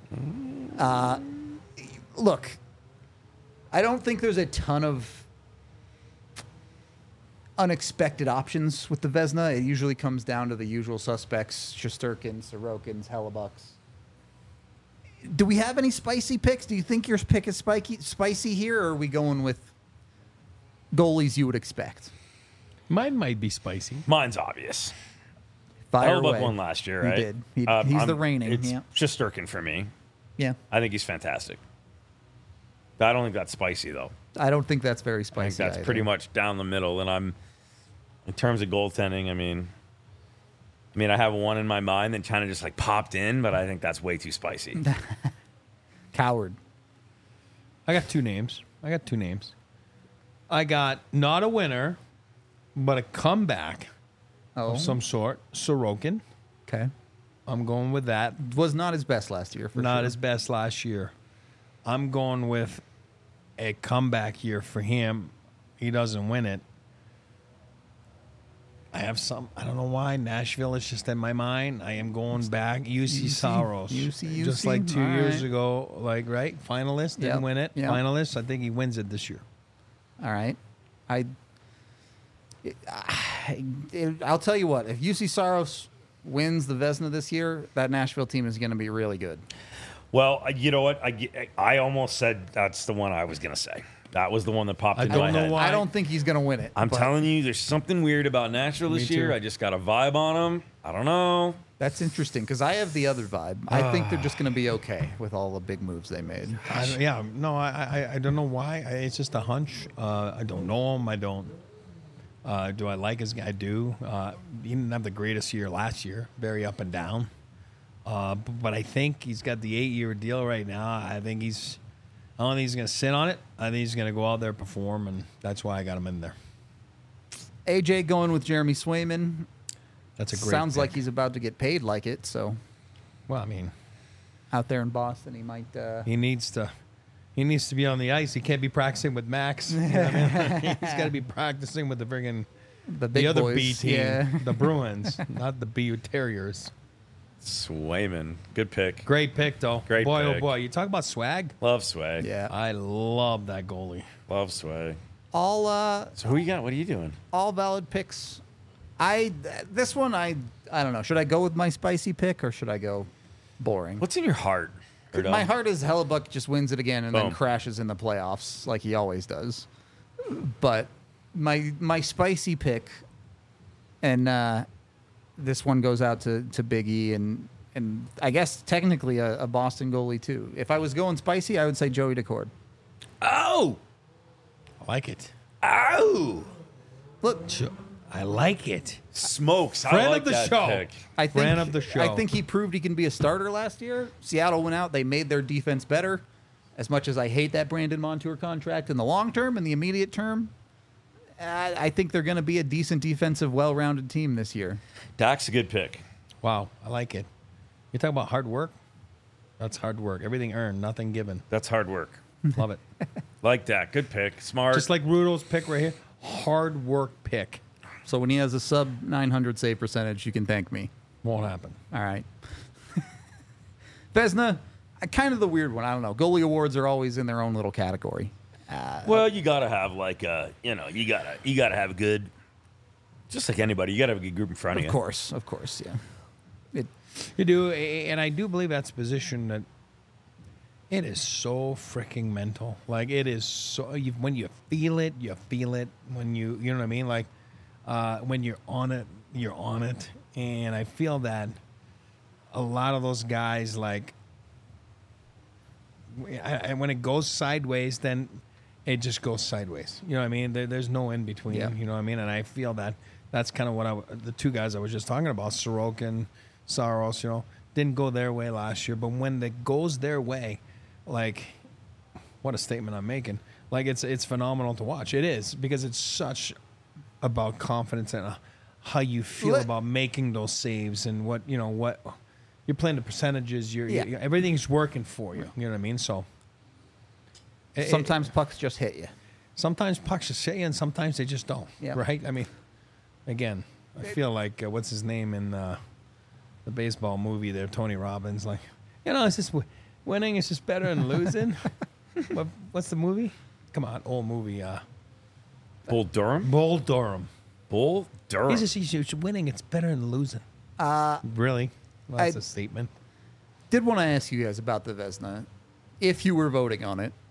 Speaker 1: Uh, look, I don't think there's a ton of unexpected options with the Vezina. It usually comes down to the usual suspects: Shesterkin, Sorokins, Hellebucks. Do we have any spicy picks? Do you think your pick is spiky, spicy here, or are we going with goalies you would expect?
Speaker 3: Mine might be spicy.
Speaker 2: Mine's obvious.
Speaker 1: Fire
Speaker 2: Hellebuck
Speaker 1: away.
Speaker 2: won last year,
Speaker 1: He
Speaker 2: right?
Speaker 1: did. He-
Speaker 2: Um,
Speaker 1: he's
Speaker 2: I'm-
Speaker 1: the reigning.
Speaker 2: It's
Speaker 1: Yeah.
Speaker 2: Shesterkin for me.
Speaker 1: Yeah,
Speaker 2: I think he's fantastic. I don't think that's spicy, though.
Speaker 1: I don't think that's very
Speaker 2: I
Speaker 1: spicy.
Speaker 2: think that's
Speaker 1: either.
Speaker 2: pretty much down the middle. And I'm, in terms of goaltending, I mean, I mean, I have one in my mind that kind of just like popped in, but I think that's way too spicy.
Speaker 1: Coward.
Speaker 3: I got two names. I got two names. I got not a winner, but a comeback
Speaker 1: Oh,
Speaker 3: of some sort. Sorokin.
Speaker 1: okay.
Speaker 3: I'm going with that.
Speaker 1: Was not his best last year, for
Speaker 3: Not
Speaker 1: sure.
Speaker 3: his best last year. I'm going with a comeback year for him. He doesn't win it. I have some. I don't know why Nashville is just in my mind. I am going back. U C
Speaker 1: U C,
Speaker 3: Saros,
Speaker 1: U C,
Speaker 3: just
Speaker 1: U C,
Speaker 3: like two
Speaker 1: all
Speaker 3: years
Speaker 1: right.
Speaker 3: ago. Like right, finalist didn't
Speaker 1: Yep,
Speaker 3: win it.
Speaker 1: yep.
Speaker 3: Finalist. I think he wins it this year.
Speaker 1: All right. I, I, I'll tell you what. If U C Saros wins the Vezina this year, that Nashville team is going to be really good.
Speaker 2: Well, I- you know what? I, I almost said that's the one I was going to say. That was the one that popped
Speaker 3: I
Speaker 2: into
Speaker 3: don't
Speaker 2: my
Speaker 3: know
Speaker 2: head.
Speaker 3: why.
Speaker 1: I don't think he's going to win it.
Speaker 2: I'm
Speaker 1: but
Speaker 2: telling you, there's something weird about Nashville this
Speaker 3: Me
Speaker 2: year.
Speaker 3: too.
Speaker 2: I just got a vibe on them. I don't know.
Speaker 1: That's interesting because I have the other vibe. I think they're just going to be okay with all the big moves they made.
Speaker 3: I don't- yeah, no, I, I, I don't know why. I, it's just a hunch. Uh, I don't know him. I don't. Uh, do I like his guy? I do. Uh, he didn't have the greatest year last year. Very up and down. Uh, b- but I think he's got the eight-year deal right now. I think he's. I don't think he's going to sit on it. I think he's going to go out there, perform, and that's why I got him in there.
Speaker 1: A J going with Jeremy Swayman.
Speaker 3: That's a great.
Speaker 1: Sounds
Speaker 3: pick.
Speaker 1: like he's about to get paid like it. So
Speaker 3: Well, I mean,
Speaker 1: out there in Boston, he might. Uh,
Speaker 3: he needs to. He needs to be on the ice. He can't be practicing with Max. You know what I mean? He's got to be practicing with the friggin'
Speaker 1: the big
Speaker 3: the other
Speaker 1: boys.
Speaker 3: B team,
Speaker 1: Yeah.
Speaker 3: the Bruins, not the B Terriers.
Speaker 2: Swayman. Good pick.
Speaker 3: Great pick, though.
Speaker 2: Great
Speaker 3: boy,
Speaker 2: pick.
Speaker 3: oh boy. You talk about swag.
Speaker 2: Love Sway.
Speaker 1: Yeah.
Speaker 3: I love that goalie.
Speaker 2: Love Sway.
Speaker 1: All uh,
Speaker 2: So who you got? What are you doing?
Speaker 1: all valid picks. I this one I I don't know. Should I go with my spicy pick or should I go boring?
Speaker 2: What's in your heart? Erdo?
Speaker 1: My heart is Hellebuck just wins it again and then
Speaker 2: Boom.
Speaker 1: crashes in the playoffs like he always does. But my my spicy pick, and uh, this one goes out to, to Big E and and I guess technically a, a Boston goalie too. If I was going spicy, I would say Joey Decord.
Speaker 2: Oh,
Speaker 3: I like it.
Speaker 2: oh,
Speaker 1: Look,
Speaker 3: I like it.
Speaker 2: smokes! I
Speaker 3: Friend
Speaker 2: like
Speaker 3: of the
Speaker 2: that
Speaker 3: show.
Speaker 2: pick.
Speaker 1: I think
Speaker 3: Friend of the show.
Speaker 1: I think he proved he can be a starter last year. Seattle went out; they made their defense better. As much as I hate that Brandon Montour contract in the long term and the immediate term, I, I think they're going to be a decent defensive, well-rounded team this year.
Speaker 2: Dak's a good pick.
Speaker 3: Wow, I like it. You talk about hard work? That's hard work. Everything earned, nothing given.
Speaker 2: That's hard work.
Speaker 3: Love it.
Speaker 2: Like that. Good pick. Smart.
Speaker 3: Just like Rudo's pick right here. Hard work pick.
Speaker 1: So when he has a sub nine hundred save percentage, you can thank me.
Speaker 3: Won't happen.
Speaker 1: All right. Vezina, uh, kind of the weird one. I don't know. Goalie awards are always in their own little category.
Speaker 2: well, you gotta have like a, you know, you gotta you gotta have a good, just like anybody, you gotta have a good group in front of,
Speaker 1: Of
Speaker 2: you.
Speaker 1: course, of course, yeah. It,
Speaker 3: You do, a- and I do believe that's a position that it is so freaking mental. Like it is so you, when you feel it, you feel it. When you, you know what I mean. Like uh, when you're on it, you're on it. And I feel that a lot of those guys, like, and when it goes sideways, then it just goes sideways. You know what I mean? There, there's no in between.
Speaker 1: Yeah.
Speaker 3: You know what I mean? And I feel that that's kind of what I, the two guys I was just talking about, Sorokin, Saros, you know, didn't go their way last year. But when it goes their way, like, what a statement I'm making. Like, it's it's phenomenal to watch. It is, because it's such about confidence and uh, how you feel
Speaker 1: Let-
Speaker 3: about making those saves and what, you know, what you're playing the percentages. You're,
Speaker 1: Yeah.
Speaker 3: you everything's working for you. You know what I mean? So it- it-
Speaker 1: sometimes pucks just hit you.
Speaker 3: sometimes pucks just hit you and sometimes they just don't.
Speaker 1: Yeah.
Speaker 3: Right? I mean, again, I feel like, uh, what's his name in uh, the baseball movie there, Tony Robbins, like, you know, it's just w- winning is just better than losing. what, what's the movie? Come on, old movie. Uh,
Speaker 2: Bull Durham.
Speaker 3: Bull Durham.
Speaker 2: Bull Durham.
Speaker 3: He's just he's just winning. It's better than losing. Uh, really? Well, that's
Speaker 1: I-
Speaker 3: a statement.
Speaker 1: Did want to ask you guys about the Vezina, if you were voting on it.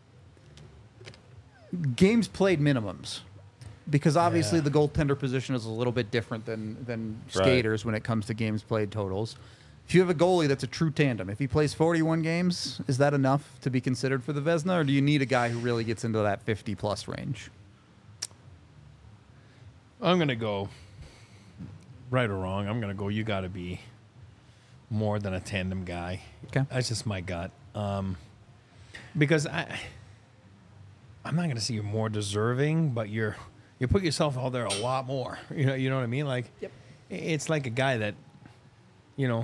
Speaker 1: Games played minimums, because obviously
Speaker 3: Yeah.
Speaker 1: the goaltender position is a little bit different than than
Speaker 2: Right.
Speaker 1: skaters when it comes to games played totals. If you have a goalie that's a true tandem, if he plays forty-one games, is that enough to be considered for the Vezina, or do you need a guy who really gets into that fifty plus range?
Speaker 3: I'm gonna go. Right or wrong, I'm gonna go. You got to be more than a tandem guy.
Speaker 1: Okay.
Speaker 3: That's just my gut. Um, because I, I'm not gonna say you're more deserving, but you're you put yourself out there a lot more. You know, you know what I mean? Like,
Speaker 1: Yep.
Speaker 3: it's like a guy that, you know,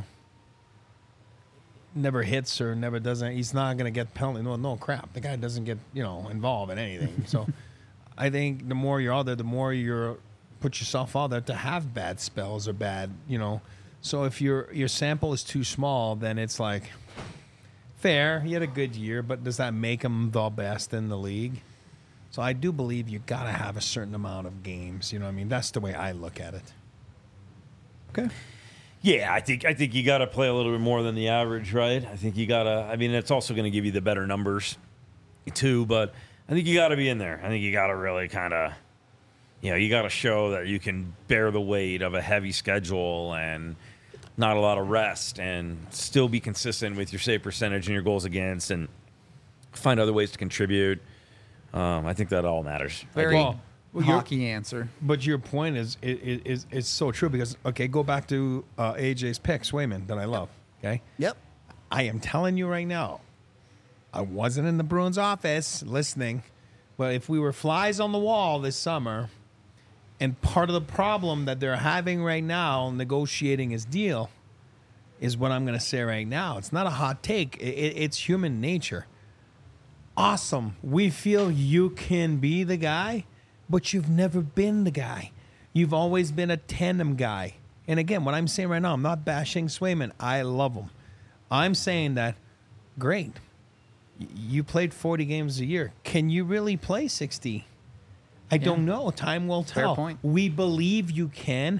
Speaker 3: never hits or never doesn't. He's not gonna get penalty. No, no crap. The guy doesn't get, you know, involved in anything. So, I think the more you're out there, the more you're put yourself out there to have bad spells or bad, you know. So if your your sample is too small, then it's like fair. He had a good year, but does that make him the best in the league? So I do believe you got to have a certain amount of games. You know what I mean? That's the way I look at it.
Speaker 1: Okay.
Speaker 2: Yeah, I think I think you got to play a little bit more than the average, right? I think you got to. I mean, it's also going to give you the better numbers, too. But I think you got to be in there. I think you got to really kind of, you know, you got to show that you can bear the weight of a heavy schedule and not a lot of rest, and still be consistent with your save percentage and your goals against, and find other ways to contribute. Um, I think that all matters. I
Speaker 1: Very
Speaker 2: think-
Speaker 3: Well, well, you're-
Speaker 1: hockey answer.
Speaker 3: But your point is is is, is so true because okay, go back to uh, A J's pick, Swayman, that I love. Okay,
Speaker 1: Yep.
Speaker 3: I am telling you right now, I wasn't in the Bruins office listening, but if we were flies on the wall this summer, and part of the problem that they're having right now negotiating his deal is what I'm going to say right now. It's not a hot take. It, it, it's human nature. Awesome. We feel you can be the guy, but you've never been the guy. You've always been a tandem guy. And again, what I'm saying right now, I'm not bashing Swayman. I love him. I'm saying that, great. Y- You played forty games a year. Can you really play sixty? I don't know. Time will
Speaker 1: Fair
Speaker 3: tell.
Speaker 1: point.
Speaker 3: We believe you can,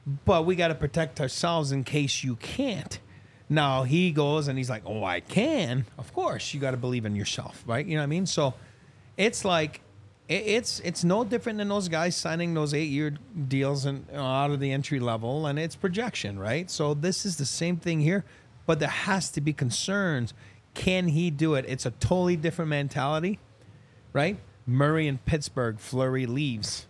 Speaker 3: but we got to protect ourselves in case you can't. Now he goes and he's like, oh, I can. Of course, you got to believe in yourself, right? You know what I mean? So it's like, it- it's it's no different than those guys signing those eight-year deals and you know, out of the entry level, and it's projection, right? So this is the same thing here, but there has to be concerns. Can he do it? It's a totally different mentality, right? Murray in Pittsburgh, Fleury leaves.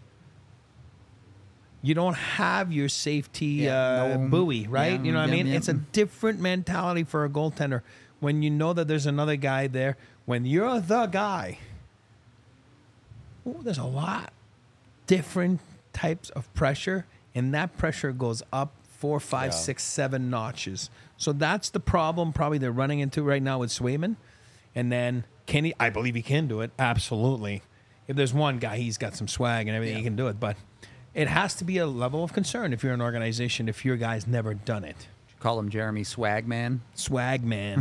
Speaker 3: You don't have your safety
Speaker 1: Yeah,
Speaker 3: uh,
Speaker 1: no-
Speaker 3: buoy, right?
Speaker 1: yeah,
Speaker 3: you know what
Speaker 1: yeah,
Speaker 3: I mean?
Speaker 1: yeah.
Speaker 3: It's a different mentality for a goaltender when you know that there's another guy there. When you're the guy, ooh, there's a lot different types of pressure, and that pressure goes up four, five,
Speaker 2: Yeah.
Speaker 3: six, seven notches. So that's the problem probably they're running into right now with Swayman. And then can he? I believe he can do it. Absolutely. If there's one guy, he's got some swag and everything,
Speaker 1: Yeah.
Speaker 3: he can do it. But it has to be a level of concern if you're an organization, if your guy's never done it.
Speaker 1: Call him Jeremy Swagman.
Speaker 3: Swag man.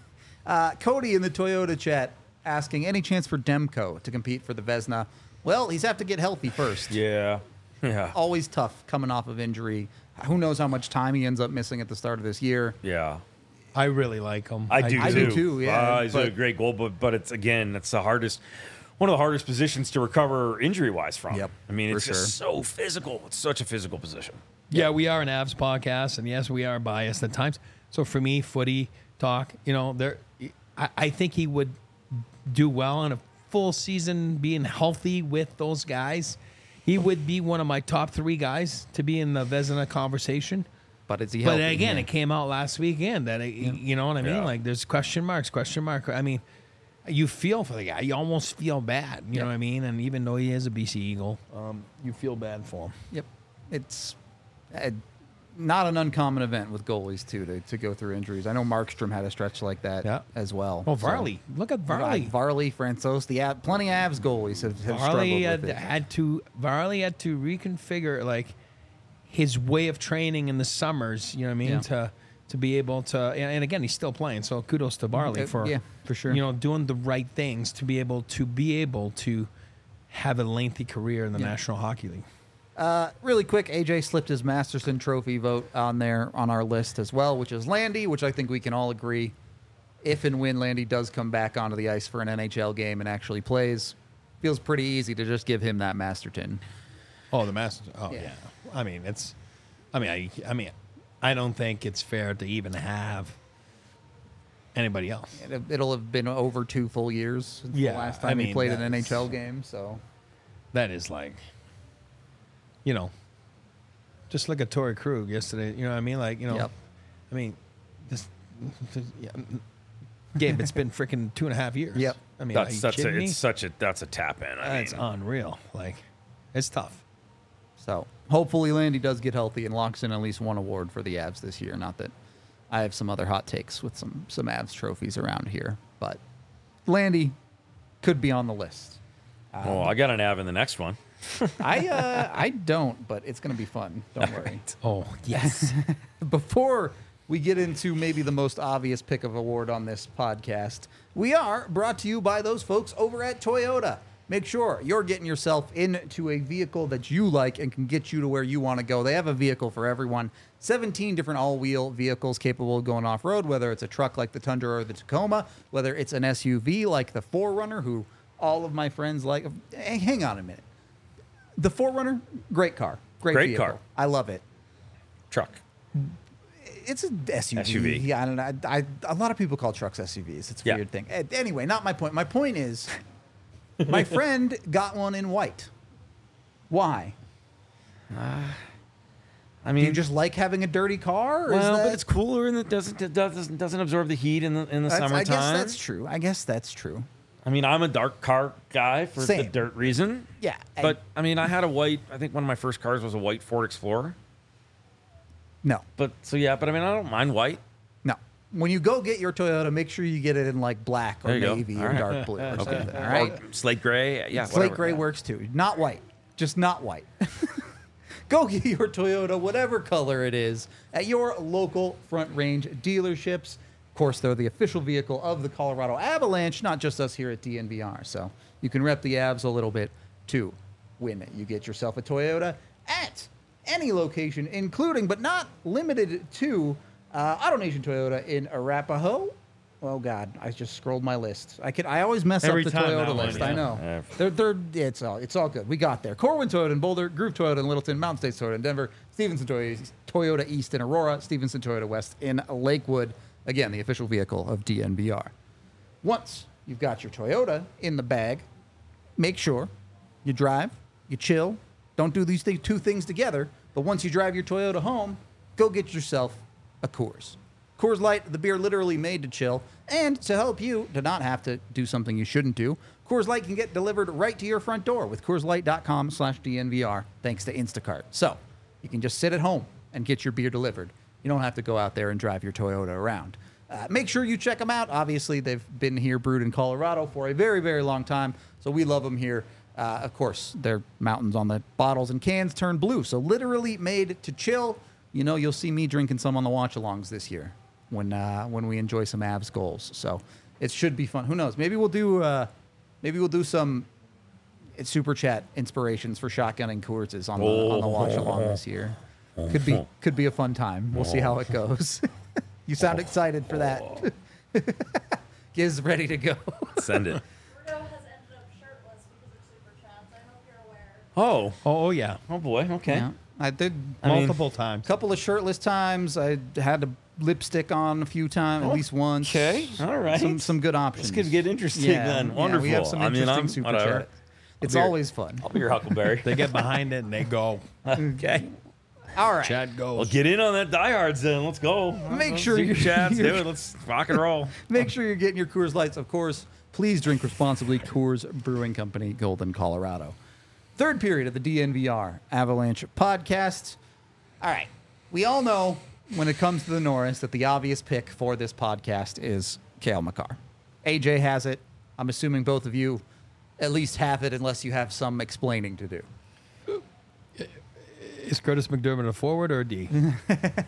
Speaker 1: Uh, Cody in the Toyota chat asking, any chance for Demko to compete for the Vezina? Well, he's have to get healthy first.
Speaker 2: Yeah. Yeah.
Speaker 1: Always tough coming off of injury. Who knows how much time he ends up missing at the start of this year.
Speaker 2: Yeah.
Speaker 3: I really like him.
Speaker 2: I do
Speaker 1: I
Speaker 2: too.
Speaker 1: do too, yeah,
Speaker 2: Uh, he's a
Speaker 1: but-
Speaker 2: great goal, but but it's again, it's the hardest, one of the hardest positions to recover injury wise from.
Speaker 1: Yep,
Speaker 2: I mean,
Speaker 1: for
Speaker 2: it's just so physical. It's such a physical position.
Speaker 3: Yeah, we are an Avs podcast, and yes, we are biased at times. So for me, footy talk, you know, there, I, I think he would do well in a full season, being healthy with those guys. He would be one of my top three guys to be in the Vezina conversation.
Speaker 1: But is he
Speaker 3: But
Speaker 1: healthy?
Speaker 3: again,
Speaker 1: Yeah.
Speaker 3: it came out last weekend that it, you know what I mean.
Speaker 2: Yeah.
Speaker 3: Like there's question marks, question mark. I mean, you feel for the guy. You almost feel bad. You know
Speaker 1: Yeah.
Speaker 3: what I mean? And even though he is a B C Eagle, um, you feel bad for him.
Speaker 1: Yep. It's uh, not an uncommon event with goalies, too, to, to go through injuries. I know Markstrom had a stretch like that
Speaker 3: Yeah.
Speaker 1: as well.
Speaker 3: Oh,
Speaker 1: So-
Speaker 3: Varley! Look at Varley.
Speaker 1: Right, Varley, Francois, the Av- plenty of Avs goalies have, have struggled
Speaker 3: Varley
Speaker 1: with
Speaker 3: had,
Speaker 1: it.
Speaker 3: had to Varley had to reconfigure like his way of training in the summers. You know what I mean?
Speaker 1: Yeah.
Speaker 3: To to be able to, and, and again, he's still playing. So kudos to Varley
Speaker 1: Uh,
Speaker 3: for
Speaker 1: yeah, for sure.
Speaker 3: You know, doing the right things to be able to be able to have a lengthy career in the
Speaker 1: Yeah.
Speaker 3: National Hockey League.
Speaker 1: Uh, really quick, A J slipped his Masterson Trophy vote on there on our list as well, which is Landy, which I think we can all agree. If and when Landy does come back onto the ice for an N H L game and actually plays, feels pretty easy to just give him that Masterton.
Speaker 3: Oh, the Masters. Oh,
Speaker 1: Yeah.
Speaker 3: yeah. I mean, it's. I mean, I. I mean, I don't think it's fair to even have anybody else.
Speaker 1: It, it'll have been over two full years since
Speaker 3: Yeah,
Speaker 1: the last
Speaker 3: I
Speaker 1: time he
Speaker 3: mean,
Speaker 1: played an
Speaker 3: that's-
Speaker 1: N H L game. So
Speaker 3: That is like, you know, just look at Torrey Krug yesterday. You know what I mean? Like, you know,
Speaker 1: Yep.
Speaker 3: I mean, this, yeah, Gabe, it's been freaking two and a half years.
Speaker 1: Yep.
Speaker 3: I mean,
Speaker 2: That's
Speaker 3: are you
Speaker 2: such a,
Speaker 3: kidding me?
Speaker 2: it's such a that's a tap in. I
Speaker 3: That's
Speaker 2: mean,
Speaker 3: unreal. Like, it's tough.
Speaker 1: So hopefully Landy does get healthy and locks in at least one award for the Avs this year. Not that I have some other hot takes with some some Avs trophies around here, but Landy could be on the list.
Speaker 2: well, I got an Av in the next one.
Speaker 1: I uh, I don't, but it's going to be fun. Don't worry.
Speaker 3: Oh, yes.
Speaker 1: Before we get into maybe the most obvious pick of award on this podcast, we are brought to you by those folks over at Toyota. Make sure you're getting yourself into a vehicle that you like and can get you to where you want to go. They have a vehicle for everyone. seventeen different all-wheel vehicles capable of going off-road, whether it's a truck like the Tundra or the Tacoma, whether it's an S U V like the four runner, who all of my friends like. Hey, hang on a minute. The four runner, great car. Great,
Speaker 2: Great
Speaker 1: vehicle.
Speaker 2: car.
Speaker 1: I love it.
Speaker 2: Truck.
Speaker 1: It's an S U V.
Speaker 2: S U V.
Speaker 1: Yeah, I don't know. I, I, a lot of people call trucks S U Vs. It's a
Speaker 2: Yeah.
Speaker 1: weird thing. Eh, Anyway, not my point. My point is, my friend got one in white. Why?
Speaker 2: I
Speaker 1: Do
Speaker 2: mean,
Speaker 1: you just like having a dirty car? Or is
Speaker 2: well,
Speaker 1: that,
Speaker 2: but it's cooler and it doesn't it doesn't doesn't absorb the heat in the in the
Speaker 1: that's-
Speaker 2: summertime.
Speaker 1: I guess that's true. I guess that's true.
Speaker 2: I mean, I'm a dark car guy for the
Speaker 1: Same.
Speaker 2: dirt reason.
Speaker 1: Yeah, I-
Speaker 2: But I mean, I had a white. I think one of my first cars was a white Ford Explorer.
Speaker 1: No,
Speaker 2: But so yeah, but I mean, I don't mind white.
Speaker 1: no. When you go get your Toyota, make sure you get it in like black or
Speaker 2: There you go.
Speaker 1: navy
Speaker 2: All
Speaker 1: or
Speaker 2: right.
Speaker 1: dark blue or
Speaker 2: Okay.
Speaker 1: something. All right.
Speaker 2: Or slate gray. Yeah.
Speaker 1: Slate
Speaker 2: whatever.
Speaker 1: gray
Speaker 2: Yeah.
Speaker 1: works too. Not white. Just not white. Go get your Toyota, whatever color it is, at your local Front Range dealerships. Of course, they're the official vehicle of the Colorado Avalanche, not just us here at D N V R. So you can rep the Avs a little bit too when you get yourself a Toyota at any location, including but not limited to uh, AutoNation Toyota in Arapahoe. Oh God, I just scrolled my list. I could I always mess
Speaker 3: Every
Speaker 1: up the
Speaker 3: time
Speaker 1: Toyota
Speaker 3: that one,
Speaker 1: list.
Speaker 3: yeah.
Speaker 1: I know.
Speaker 2: Yeah.
Speaker 1: They're they're it's all it's all good. We got there. Corwin Toyota in Boulder, Groove Toyota in Littleton, Mountain States Toyota in Denver, Stevenson Toyota, Toyota East in Aurora, Stevenson Toyota West in Lakewood. Again, the official vehicle of D N V R. Once you've got your Toyota in the bag, make sure you drive, you chill. Don't do these th- two things together. But once you drive your Toyota home, go get yourself a Coors. Coors Light, the beer literally made to chill, and to help you to not have to do something you shouldn't do, Coors Light can get delivered right to your front door with Coors Light dot com slash D N V R, thanks to Instacart. So you can just sit at home and get your beer delivered. You don't have to go out there and drive your Toyota around. Uh, make sure you check them out. Obviously, they've been here brewed in Colorado for a very, very long time, so we love them here. Uh, of course, their mountains on the bottles and cans turn blue, so literally made to chill. You know, you'll see me drinking some on the watch-alongs this year when uh, when we enjoy some Avs goals. So it should be fun. Who knows? Maybe we'll do uh, maybe we'll do some super chat inspirations for shotgunning Coors on the on the watch-along this year. Could be could be a fun time. We'll see how it goes. You sound excited for that. Giz ready to go.
Speaker 2: Send it.
Speaker 4: Rudo has ended up shirtless because of super chats. I hope you're aware.
Speaker 2: Oh.
Speaker 3: Oh, oh yeah,
Speaker 2: Oh boy. Okay.
Speaker 1: Yeah, I did
Speaker 2: I mean,
Speaker 3: multiple times.
Speaker 1: a couple of shirtless times. I had to lipstick on a few times, at least once.
Speaker 2: Okay. All right.
Speaker 1: Some some good options.
Speaker 2: This could get interesting
Speaker 1: Yeah,
Speaker 2: then.
Speaker 1: yeah,
Speaker 2: Wonderful.
Speaker 1: we have some
Speaker 2: I mean,
Speaker 1: interesting
Speaker 2: I'm
Speaker 1: super
Speaker 2: whatever.
Speaker 1: chat. It's
Speaker 2: be your-
Speaker 1: always fun.
Speaker 2: I'll be your Huckleberry.
Speaker 3: They get behind it and they go.
Speaker 2: Okay.
Speaker 1: All right.
Speaker 3: Chat goes.
Speaker 2: Well, get in on that diehards then. Let's go.
Speaker 1: Make
Speaker 2: Let's
Speaker 1: sure
Speaker 2: do
Speaker 1: you're-
Speaker 2: chats. Do
Speaker 1: you're-
Speaker 2: it. Let's rock and roll.
Speaker 1: Make sure you're getting your Coors Lights, of course. Please drink responsibly. Coors Brewing Company, Golden, Colorado. Third period of the D N V R Avalanche podcast. All right. We all know when it comes to the Norris that the obvious pick for this podcast is Cale Makar. A J has it. I'm assuming both of you at least have it unless you have some explaining to do.
Speaker 3: Is Curtis McDermott a forward or a D?
Speaker 1: I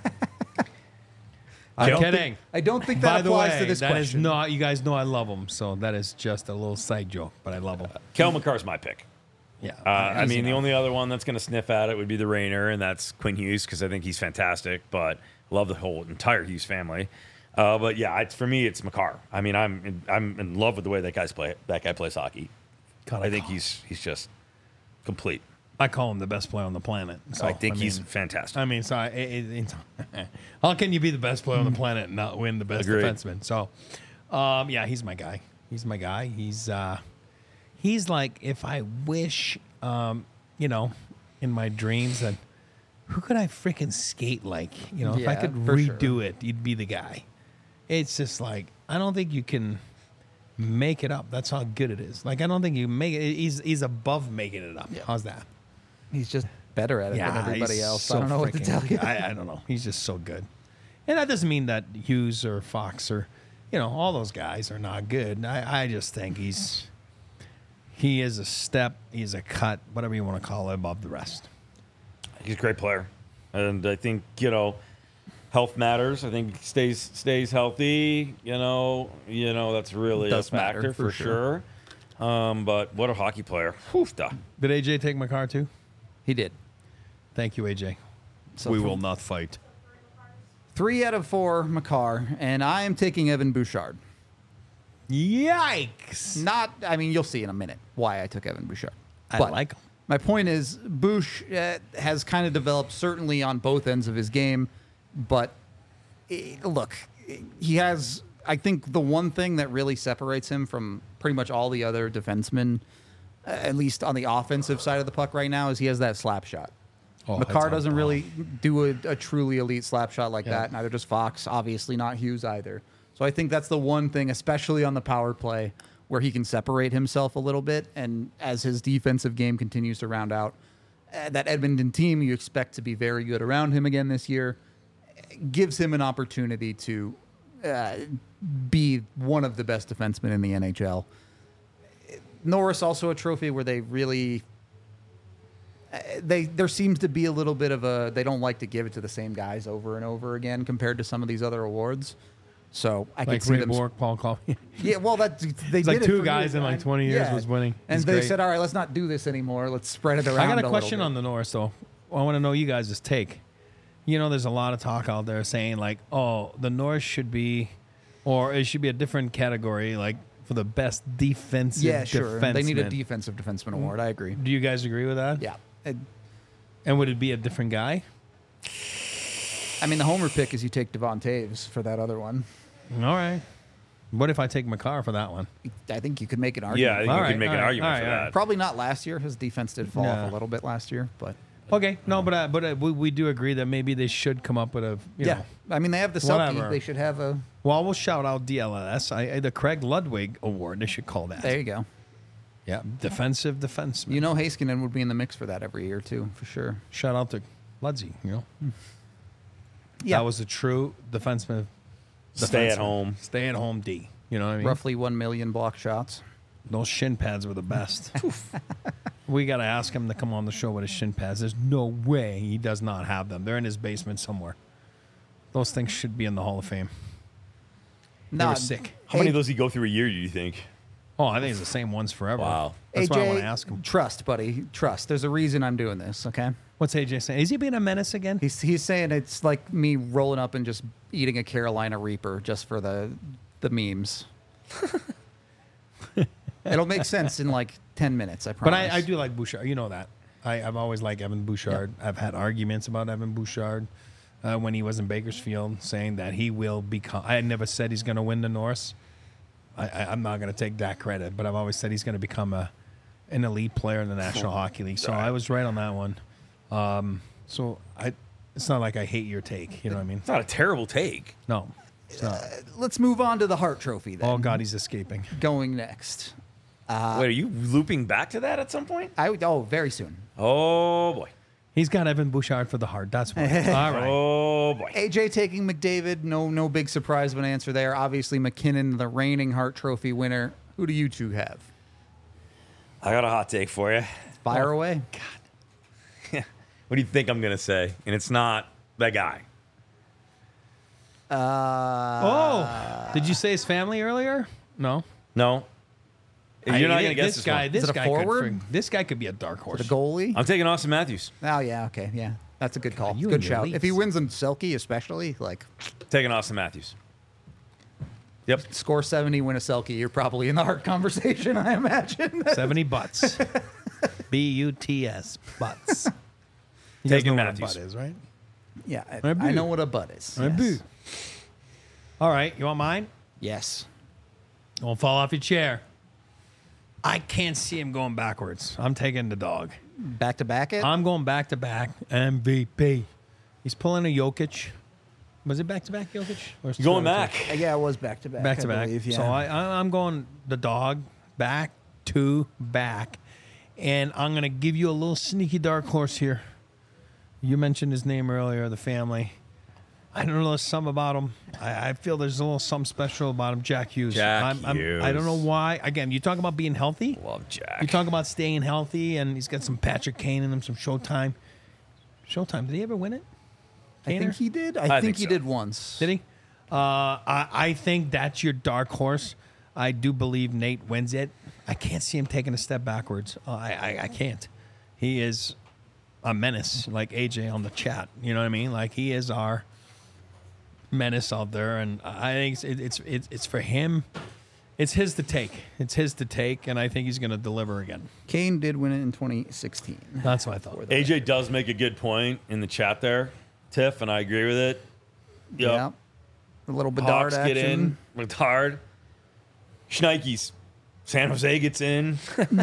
Speaker 3: I'm
Speaker 1: don't
Speaker 3: kidding.
Speaker 1: think- I don't think that
Speaker 3: By the
Speaker 1: applies
Speaker 3: way,
Speaker 1: to this
Speaker 3: that is
Speaker 1: question.
Speaker 3: not. You guys know I love him, so that is just a little side joke, but I love him.
Speaker 2: Kel McCarr's my pick.
Speaker 3: Yeah.
Speaker 2: Uh, I
Speaker 3: easy
Speaker 2: mean, the
Speaker 3: enough.
Speaker 2: only other one that's going to sniff at it would be the Rainer, and that's Quinn Hughes because I think he's fantastic. But love the whole entire Hughes family. Uh, but yeah, it's, for me, it's Makar. I mean, I'm in, I'm in love with the way that guy's play. That guy plays hockey.
Speaker 3: God,
Speaker 2: I think
Speaker 3: call-
Speaker 2: he's he's just complete.
Speaker 3: I call him the best player on the planet. So,
Speaker 2: I think he's
Speaker 3: mean,
Speaker 2: fantastic.
Speaker 3: I mean, sorry. It, it, it's, how can you be the best player on the planet and not win the best
Speaker 2: Agreed.
Speaker 3: defenseman? So, um, yeah, he's my guy. He's my guy. He's uh, he's like if I wish, um, you know, in my dreams that who could I freaking skate like? You know, if I
Speaker 1: Yeah,
Speaker 3: could
Speaker 1: for
Speaker 3: redo
Speaker 1: sure.
Speaker 3: it, you'd be the guy. It's just like I don't think you can make it up. That's how good it is. Like I don't think you make it. He's he's above making it up.
Speaker 1: Yeah.
Speaker 3: How's that?
Speaker 1: He's just better at it than everybody
Speaker 3: he's
Speaker 1: else.
Speaker 3: so
Speaker 1: I don't know what to
Speaker 3: freaking-
Speaker 1: tell you.
Speaker 3: I, I don't know. He's just so good. And that doesn't mean that Hughes or Fox or, you know, all those guys are not good. I, I just think he's he is a step, he's a cut, whatever you want to call it, above the rest.
Speaker 2: He's a great player, and I think you know, health matters. I think he stays stays healthy. You know, you know that's really
Speaker 1: Does
Speaker 2: a factor
Speaker 1: matter,
Speaker 2: for,
Speaker 1: for sure.
Speaker 2: sure. Um, but what a hockey player! Whew, duh.
Speaker 3: Did A J take my car too?
Speaker 1: He did.
Speaker 3: Thank you, A J.
Speaker 1: So
Speaker 3: we
Speaker 1: from-
Speaker 3: will not fight.
Speaker 1: Three out of four, Makar, and I am taking Evan Bouchard.
Speaker 3: Yikes!
Speaker 1: Not, I mean, you'll see in a minute why I took Evan Bouchard.
Speaker 3: I
Speaker 1: But
Speaker 3: like him.
Speaker 1: My point is, Bouch uh, has kind of developed certainly on both ends of his game, but eh, look, he has. I think the one thing that really separates him from pretty much all the other defensemen, uh, at least on the offensive side of the puck right now, is he has that slap shot.
Speaker 3: Oh,
Speaker 1: Makar
Speaker 3: that's on-
Speaker 1: doesn't really do a, a truly elite slap shot like
Speaker 3: Yeah.
Speaker 1: that. Neither does Fox. Obviously, not Hughes either. So I think that's the one thing, especially on the power play, where he can separate himself a little bit. And as his defensive game continues to round out, uh, that Edmonton team you expect to be very good around him again this year gives him an opportunity to uh, be one of the best defensemen in the N H L. Norris also a trophy where they really uh, they there seems to be a little bit of a they don't like to give it to the same guys over and over again compared to some of these other awards. So I
Speaker 3: Like
Speaker 1: could see
Speaker 3: Ray
Speaker 1: them.
Speaker 3: Bork, Paul Coffey.
Speaker 1: Yeah, well, that they
Speaker 3: It's
Speaker 1: did
Speaker 3: like
Speaker 1: it
Speaker 3: two
Speaker 1: for
Speaker 3: guys
Speaker 1: years.
Speaker 3: in like
Speaker 1: I-
Speaker 3: twenty years
Speaker 1: yeah.
Speaker 3: was winning.
Speaker 1: And
Speaker 3: It's
Speaker 1: they
Speaker 3: great.
Speaker 1: said, "All right, let's not do this anymore. Let's spread it around."
Speaker 3: I got a
Speaker 1: little
Speaker 3: question
Speaker 1: bit."
Speaker 3: on the Norris though. I want to know you guys' take. You know, there's a lot of talk out there saying like, oh, the Norris should be, or it should be a different category, like for the best defensive.
Speaker 1: Yeah, sure. They need a
Speaker 3: defenseman.
Speaker 1: defensive defenseman award. I agree.
Speaker 3: Do you guys agree with that?
Speaker 1: Yeah. And-
Speaker 3: And would it be a different guy?
Speaker 1: I mean, the homer pick is you take Devon Taves for that other one.
Speaker 3: All right. What if I take McCarr for that one?
Speaker 1: I think you could make an
Speaker 2: Yeah, I
Speaker 1: argument.
Speaker 2: think
Speaker 3: All
Speaker 2: we
Speaker 3: right,
Speaker 2: can make
Speaker 3: all
Speaker 2: an
Speaker 3: right,
Speaker 2: argument
Speaker 3: all
Speaker 2: for
Speaker 3: right, all
Speaker 2: that.
Speaker 3: right.
Speaker 1: Probably not last year. His defense did fall
Speaker 3: Yeah.
Speaker 1: off a little bit last year, but
Speaker 3: Okay, no, but uh, but uh, we, we do agree that maybe they should come up with a you
Speaker 1: yeah.
Speaker 3: know.
Speaker 1: I mean, they have the Selke.
Speaker 3: Whatever.
Speaker 1: They should have a.
Speaker 3: Well, we'll shout out D L S. I, I- the Craig Ludwig Award. They should call that.
Speaker 1: There you go.
Speaker 3: Yeah, defensive defenseman.
Speaker 1: You know, Heiskanen would be in the mix for that every year too, for sure.
Speaker 3: Shout out to Ludsey. You know,
Speaker 1: Yeah,
Speaker 3: that was a true defenseman.
Speaker 2: Stay at
Speaker 3: defenseman.
Speaker 2: home.
Speaker 3: Stay at home D. You know what I mean?
Speaker 1: roughly one million block shots.
Speaker 3: Those shin pads were the best. We got to ask him to come on the show with his shin pads. There's no way he does not have them. They're in his basement somewhere. Those things should be in the Hall of Fame. They
Speaker 1: Nah,
Speaker 3: were sick.
Speaker 2: How many of those do you go through a year, do you think?
Speaker 3: Oh, I think it's the same ones forever.
Speaker 2: Wow.
Speaker 3: That's
Speaker 1: A J,
Speaker 3: why I want to ask him.
Speaker 1: Trust, buddy. Trust. There's a reason I'm doing this. Okay.
Speaker 3: What's A J saying? Is he being a menace again?
Speaker 1: He's he's saying it's like me rolling up and just eating a Carolina Reaper just for the the memes. It'll make sense in like ten minutes. I
Speaker 3: But
Speaker 1: promise.
Speaker 3: I, I do like Bouchard. You know that. I, I've always liked Evan Bouchard. I've had arguments about Evan Bouchard uh, when he was in Bakersfield, saying that he will become. I had never said he's going to win the Norris. I, I, I'm not going to take that credit, but I've always said he's going to become a an elite player in the National Hockey League. So I was right on that one. Um, so I, it's not like I hate your take. You know what I mean?
Speaker 2: It's not a terrible take.
Speaker 3: No. It's not.
Speaker 1: Let's move on to the Hart Trophy then.
Speaker 3: Oh God, he's escaping.
Speaker 1: Going next.
Speaker 2: Wait, are you looping back to that at some point?
Speaker 1: I would, oh, very soon.
Speaker 2: Oh, boy.
Speaker 3: He's got Evan Bouchard for the heart. That's why. All right.
Speaker 2: Oh, boy.
Speaker 1: A J taking McDavid. No, no big surprise of an answer there. Obviously, McKinnon, the reigning Hart Trophy winner. Who do you two have?
Speaker 2: I got a hot take for you.
Speaker 1: Fire away.
Speaker 2: What do you think I'm going to say? And it's not that guy.
Speaker 1: Uh,
Speaker 3: Oh, did you say his family earlier? No.
Speaker 2: No.
Speaker 3: I-
Speaker 2: You're not
Speaker 3: thi-
Speaker 2: going to guess
Speaker 3: this
Speaker 2: this
Speaker 3: guy.
Speaker 2: one.
Speaker 3: This
Speaker 1: Is it a
Speaker 3: guy
Speaker 1: forward?
Speaker 3: Could, frig- this guy could be a dark horse.
Speaker 1: the goalie.
Speaker 2: I'm taking Austin Matthews.
Speaker 1: Oh yeah, okay, yeah, that's a good call.
Speaker 3: you
Speaker 1: Good
Speaker 3: and your
Speaker 1: shout. If he
Speaker 3: Leafs.
Speaker 1: wins in Selke, especially like
Speaker 2: Taking Austin Matthews. Yep.
Speaker 1: score seventy, win a Selke, you're probably in the Hart conversation. I imagine.
Speaker 3: Seventy butts. B U T S butts. You guys
Speaker 2: Taking
Speaker 3: know what a
Speaker 2: Matthews.
Speaker 3: butt is, right?
Speaker 1: Yeah,
Speaker 3: I
Speaker 1: I,
Speaker 3: do.
Speaker 1: I know what a butt is.
Speaker 3: I
Speaker 1: Yes.
Speaker 3: do. All right, you want mine?
Speaker 1: Yes.
Speaker 3: Don't fall off your chair. I can't see him going backwards. I'm taking the dog.
Speaker 1: Back to back it.
Speaker 3: I'm going back to back M V P. He's pulling a Jokic. Was it back to back Jokic? Or is it
Speaker 2: Going
Speaker 3: two out of
Speaker 2: back.
Speaker 1: Uh, yeah, it was back to back.
Speaker 3: Back to
Speaker 1: I
Speaker 3: back.
Speaker 1: believe, yeah.
Speaker 3: So I, I, I'm going the dog back to back. And I'm going to give you a little sneaky dark horse here. You mentioned his name earlier, the family. I don't know, there's something about him. I, I feel there's a little something special about him. Jack Hughes.
Speaker 2: Jack
Speaker 3: I'm, I'm,
Speaker 2: Hughes.
Speaker 3: I don't know why. Again, you talk about being healthy.
Speaker 2: Love Jack.
Speaker 3: You talk about staying healthy, and he's got some Patrick Kane in him, some Showtime. Showtime. Did he ever win it?
Speaker 1: I think
Speaker 3: Kaner?
Speaker 1: he did. I,
Speaker 2: I
Speaker 1: think,
Speaker 2: think
Speaker 1: he
Speaker 2: so.
Speaker 1: did once.
Speaker 3: Did he? Uh, I, I think that's your dark horse. I do believe Nate wins it. I can't see him taking a step backwards. Uh, I, I I can't. He is a menace, like A J on the chat. You know what I mean? Like he is our menace out there, and I think it's it's it's, it's for him. It's his to take. It's his to take, and I think he's going to deliver again.
Speaker 1: Kane did win it in twenty sixteen.
Speaker 3: That's what I thought.
Speaker 2: A J does make a good point in the chat there, Tiff, and I agree with it. Yep.
Speaker 1: Yeah. A little Bedard
Speaker 2: Hawks
Speaker 1: action.
Speaker 2: get in. Bedard. Schneikes. San Jose gets in.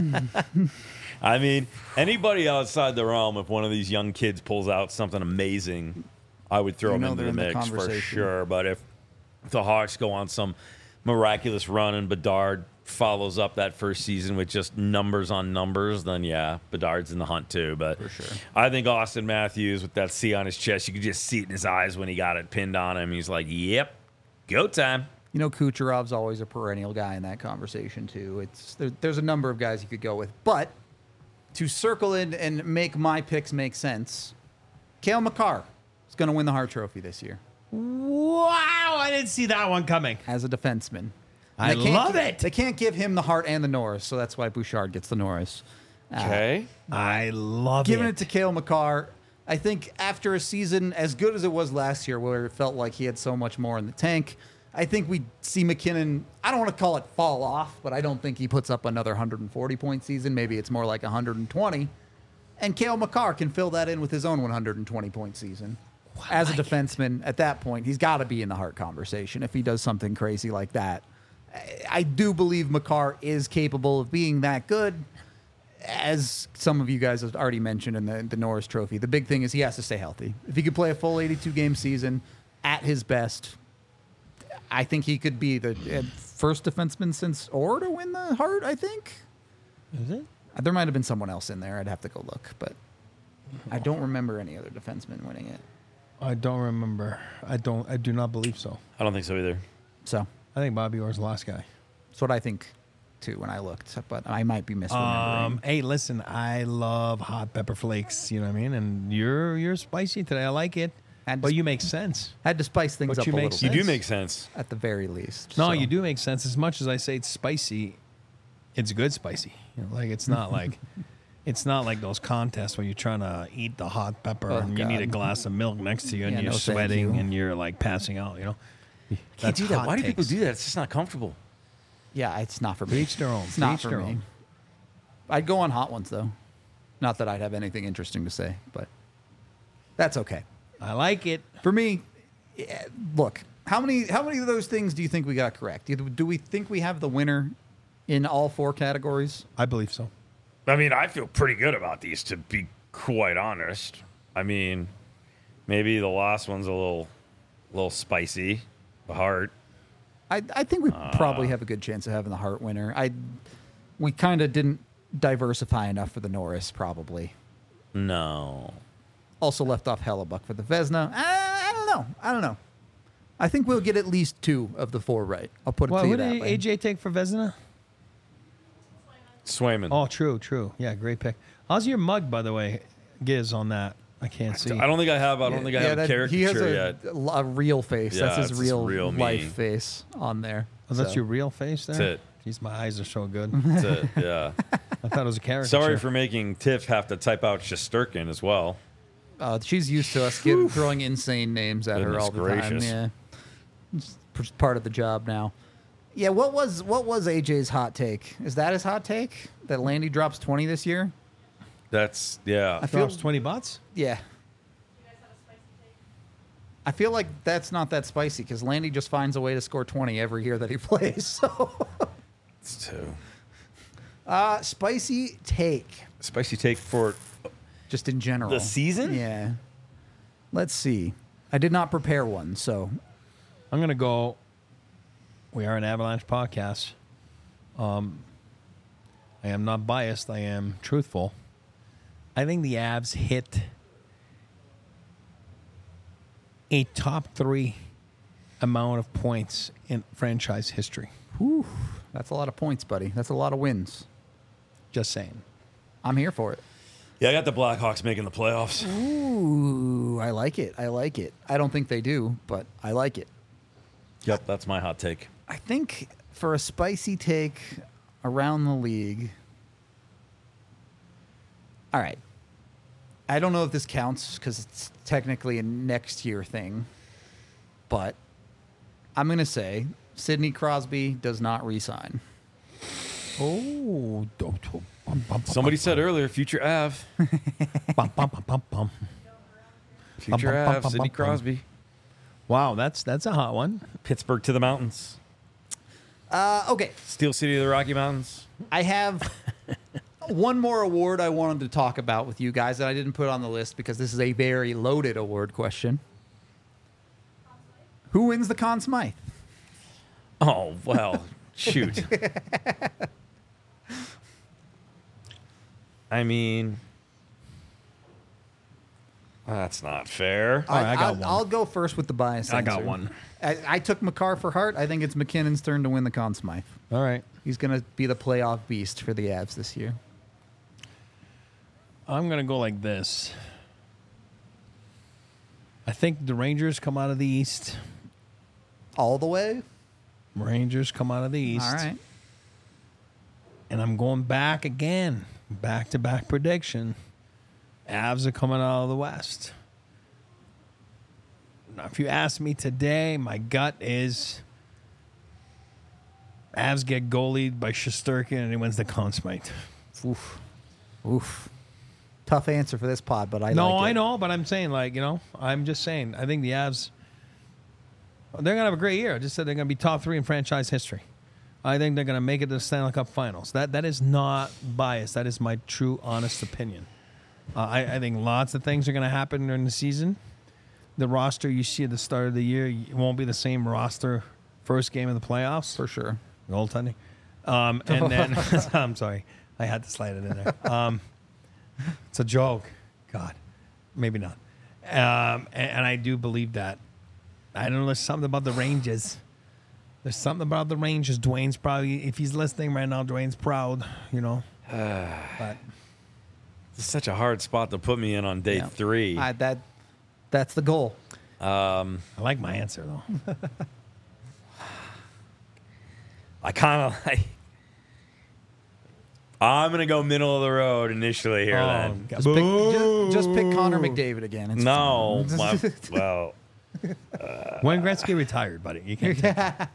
Speaker 2: I mean, anybody outside the realm, if one of these young kids pulls out something amazing, I would throw
Speaker 1: You
Speaker 2: them
Speaker 1: know
Speaker 2: into
Speaker 1: they're
Speaker 2: the
Speaker 1: in the
Speaker 2: mix for
Speaker 1: conversation.
Speaker 2: sure. But if the Hawks go on some miraculous run and Bedard follows up that first season with just numbers on numbers, then yeah, Bedard's in the hunt too. But
Speaker 1: For sure.
Speaker 2: I think Austin Matthews with that C on his chest, you could just see it in his eyes when he got it pinned on him. He's like, yep, go time.
Speaker 1: You know, Kucherov's always a perennial guy in that conversation too. It's there, there's a number of guys you could go with, but to circle in and make my picks make sense, Cale Makar is going to win the Hart Trophy this year
Speaker 3: Wow, I didn't see that one coming.
Speaker 1: as a defenseman.
Speaker 3: I
Speaker 1: They can't
Speaker 3: love
Speaker 1: gi-
Speaker 3: it.
Speaker 1: They can't give him the Hart and the Norris, so that's why Bouchard gets the Norris. Uh,
Speaker 2: Okay.
Speaker 3: I love
Speaker 1: Giving
Speaker 3: it.
Speaker 1: it to Cale Makar, I think after a season as good as it was last year, where it felt like he had so much more in the tank, I think we see McKinnon, I don't want to call it fall off, but I don't think he puts up another one hundred forty point season. Maybe it's more like one hundred twenty. And Cale Makar can fill that in with his own one hundred twenty point season. As a defenseman, at that point, he's got to be in the Hart conversation if he does something crazy like that. I, I do believe Makar is capable of being that good. As some of you guys have already mentioned in the, the Norris Trophy, the big thing is he has to stay healthy. If he could play a full eighty-two game season at his best, I think he could be the uh, first defenseman since Orr to win the Hart, I think.
Speaker 3: Is it?
Speaker 1: There might have been someone else in there. I'd have to go look, but I don't remember any other defenseman winning it.
Speaker 3: I don't remember. I don't. I do not believe so.
Speaker 2: I don't think so either.
Speaker 1: So
Speaker 3: I think Bobby Orr's the last guy.
Speaker 1: that's what I think, too, when I looked, but I might be misremembering.
Speaker 3: Um, hey, listen, I love hot pepper flakes. You know what I mean? And you're you're spicy today. I like it.
Speaker 1: And
Speaker 3: but
Speaker 1: just-
Speaker 3: you make sense.
Speaker 1: Had to spice things
Speaker 3: But
Speaker 1: up
Speaker 3: you
Speaker 1: a
Speaker 3: make-
Speaker 1: little
Speaker 2: You
Speaker 1: bit,
Speaker 2: do make sense.
Speaker 1: at the very least.
Speaker 3: No,
Speaker 1: so.
Speaker 3: you do make sense. As much as I say it's spicy, it's good spicy. You know, like it's not like it's not like those contests where you're trying to eat the hot pepper
Speaker 1: Oh,
Speaker 3: and you need a
Speaker 1: God.
Speaker 3: glass of milk next to you and
Speaker 1: Yeah,
Speaker 3: you're
Speaker 1: no, thank
Speaker 3: sweating
Speaker 1: you.
Speaker 3: and you're like passing out. You know,
Speaker 2: Can't
Speaker 3: That's
Speaker 2: do that.
Speaker 3: hot
Speaker 2: Why do people
Speaker 3: takes.
Speaker 2: do that? It's just not comfortable.
Speaker 1: Yeah, it's not for
Speaker 3: To
Speaker 1: me.
Speaker 3: each their own.
Speaker 1: It's
Speaker 3: To
Speaker 1: not
Speaker 3: each
Speaker 1: for
Speaker 3: their
Speaker 1: me.
Speaker 3: own.
Speaker 1: I'd go on hot ones, though. Not that I'd have anything interesting to say, but that's okay.
Speaker 3: I like it.
Speaker 1: For me, yeah, look, how many how many of those things do you think we got correct? Do do we think we have the winner in all four categories?
Speaker 3: I believe so.
Speaker 2: I mean, I feel pretty good about these, to be quite honest. I mean, maybe the last one's a little, little spicy. The Hart.
Speaker 1: I I think we
Speaker 3: Uh.
Speaker 1: probably have a good chance of having the Hart winner. I we kind of didn't diversify enough for the Norris, probably.
Speaker 2: No.
Speaker 1: Also left off Hellebuck for the Vesna. I, I don't know. I don't know. I think we'll get at least two of the four right. I'll put it
Speaker 3: Well,
Speaker 1: to you
Speaker 3: who
Speaker 1: that
Speaker 3: did
Speaker 1: way.
Speaker 3: A J take for Vezina?
Speaker 2: Swayman.
Speaker 3: Oh, true, true. Yeah, great pick. How's your mug, by the way, Giz, on that? I can't see.
Speaker 2: I don't think I have. I don't think I have a
Speaker 1: that-
Speaker 2: caricature
Speaker 1: he has a,
Speaker 2: yet.
Speaker 1: a real face.
Speaker 2: Yeah,
Speaker 1: That's his
Speaker 2: it's his
Speaker 1: real,
Speaker 2: real me.
Speaker 1: life face on there.
Speaker 3: Oh, that's
Speaker 1: So,
Speaker 3: your real face there?
Speaker 2: That's it.
Speaker 3: Jeez, my eyes are so good.
Speaker 2: That's it. Yeah.
Speaker 3: I thought it was a character.
Speaker 2: Sorry for making Tiff have to type out Shesterkin as well.
Speaker 1: Uh, she's used to us giving, throwing insane names at her
Speaker 2: Goodness
Speaker 1: all the
Speaker 2: gracious.
Speaker 1: time. Yeah, it's p- part of the job now. Yeah, what was what was A J's hot take? Is that his hot take that Landy drops twenty this year?
Speaker 2: That's yeah.
Speaker 1: I feel
Speaker 3: Drops twenty butts?
Speaker 1: yeah.
Speaker 4: You guys have a spicy take?
Speaker 1: I feel like that's not that spicy because Landy just finds a way to score twenty every year that he plays. So,
Speaker 2: It's two.
Speaker 1: uh, spicy take
Speaker 2: Spicy take for
Speaker 1: just in general.
Speaker 2: the season?
Speaker 1: Yeah. Let's see. I did not prepare one, so
Speaker 3: I'm going to go. We are an Avalanche podcast. Um, I am not biased. I am truthful. I think the Avs hit a top three amount of points in franchise history.
Speaker 1: whew, that's a lot of points, buddy. That's a lot of wins.
Speaker 3: Just saying.
Speaker 1: I'm here for it.
Speaker 2: Yeah, I got the Blackhawks making the playoffs.
Speaker 1: Ooh, I like it. I like it. I don't think they do, but I like it.
Speaker 2: Yep, that's my hot take.
Speaker 1: I think for a spicy take around the league. All right. I don't know if this counts because it's technically a next year thing, but I'm going to say Sidney Crosby does not resign.
Speaker 3: Oh, do- do- bum, bum, bum,
Speaker 2: Somebody
Speaker 3: bum,
Speaker 2: said earlier, future Av.
Speaker 3: bum, bum, bum, bum, bum.
Speaker 2: Future
Speaker 3: Bum, bum, bum,
Speaker 2: Av,
Speaker 3: bum,
Speaker 2: Sidney
Speaker 3: bum, bum.
Speaker 2: Crosby.
Speaker 3: Wow, that's that's a hot one.
Speaker 2: Pittsburgh to the mountains.
Speaker 1: Uh, okay.
Speaker 2: Steel City of the Rocky Mountains.
Speaker 1: I have one more award I wanted to talk about with you guys that I didn't put on the list because this is a very loaded award question. Who wins the Conn Smythe?
Speaker 2: Oh, well, shoot. I mean, that's not fair.
Speaker 3: All right, I got
Speaker 1: I'll,
Speaker 3: one.
Speaker 1: I'll go first with the bias.
Speaker 3: I got
Speaker 1: answer.
Speaker 3: one.
Speaker 1: I, I took Makar for Hart. I think it's McKinnon's turn to win the Conn Smythe.
Speaker 3: All right.
Speaker 1: He's going to be the playoff beast for the Avs this year.
Speaker 3: I'm going to go like this. I think the Rangers come out of the East.
Speaker 1: All the way?
Speaker 3: Rangers come out of the East.
Speaker 1: All right.
Speaker 3: And I'm going back again. Back to back prediction. Avs are coming out of the West. Now, if you ask me today, my gut is Avs get goalied by Shesterkin and he wins the Conn Smythe.
Speaker 1: Oof. Oof. Tough answer for this pod, but I
Speaker 3: no,
Speaker 1: like it.
Speaker 3: I know, but I'm saying, like, you know, I'm just saying, I think the Avs, they're going to have a great year. I just said they're going to be top three in franchise history. I think they're going to make it to the Stanley Cup Finals. That That is not biased. That is my true, honest opinion. Uh, I, I think lots of things are going to happen during the season. The roster you see at the start of the year, it won't be the same roster first game of the playoffs.
Speaker 1: For sure.
Speaker 3: Goaltending. Um, and then, I'm sorry, I had to slide it in there. Um, it's a joke. God, maybe not. Um, and, and I do believe that. I don't know, there's something about the Rangers. There's something about the Rangers. Dwayne's probably, if he's listening right now, Dwayne's proud, you know. But
Speaker 2: It's such a hard spot to put me in on day
Speaker 1: Yeah.
Speaker 2: three.
Speaker 1: I, that, that's the goal.
Speaker 2: Um,
Speaker 3: I like my answer, though.
Speaker 2: I kind of like. I'm gonna go middle of the road initially here.
Speaker 3: Oh,
Speaker 2: then
Speaker 3: God.
Speaker 1: Just pick, just, just pick Connor McDavid again. It's
Speaker 2: no,
Speaker 1: fine.
Speaker 2: my, well,
Speaker 3: When Gretzky retired, buddy, you can't take it.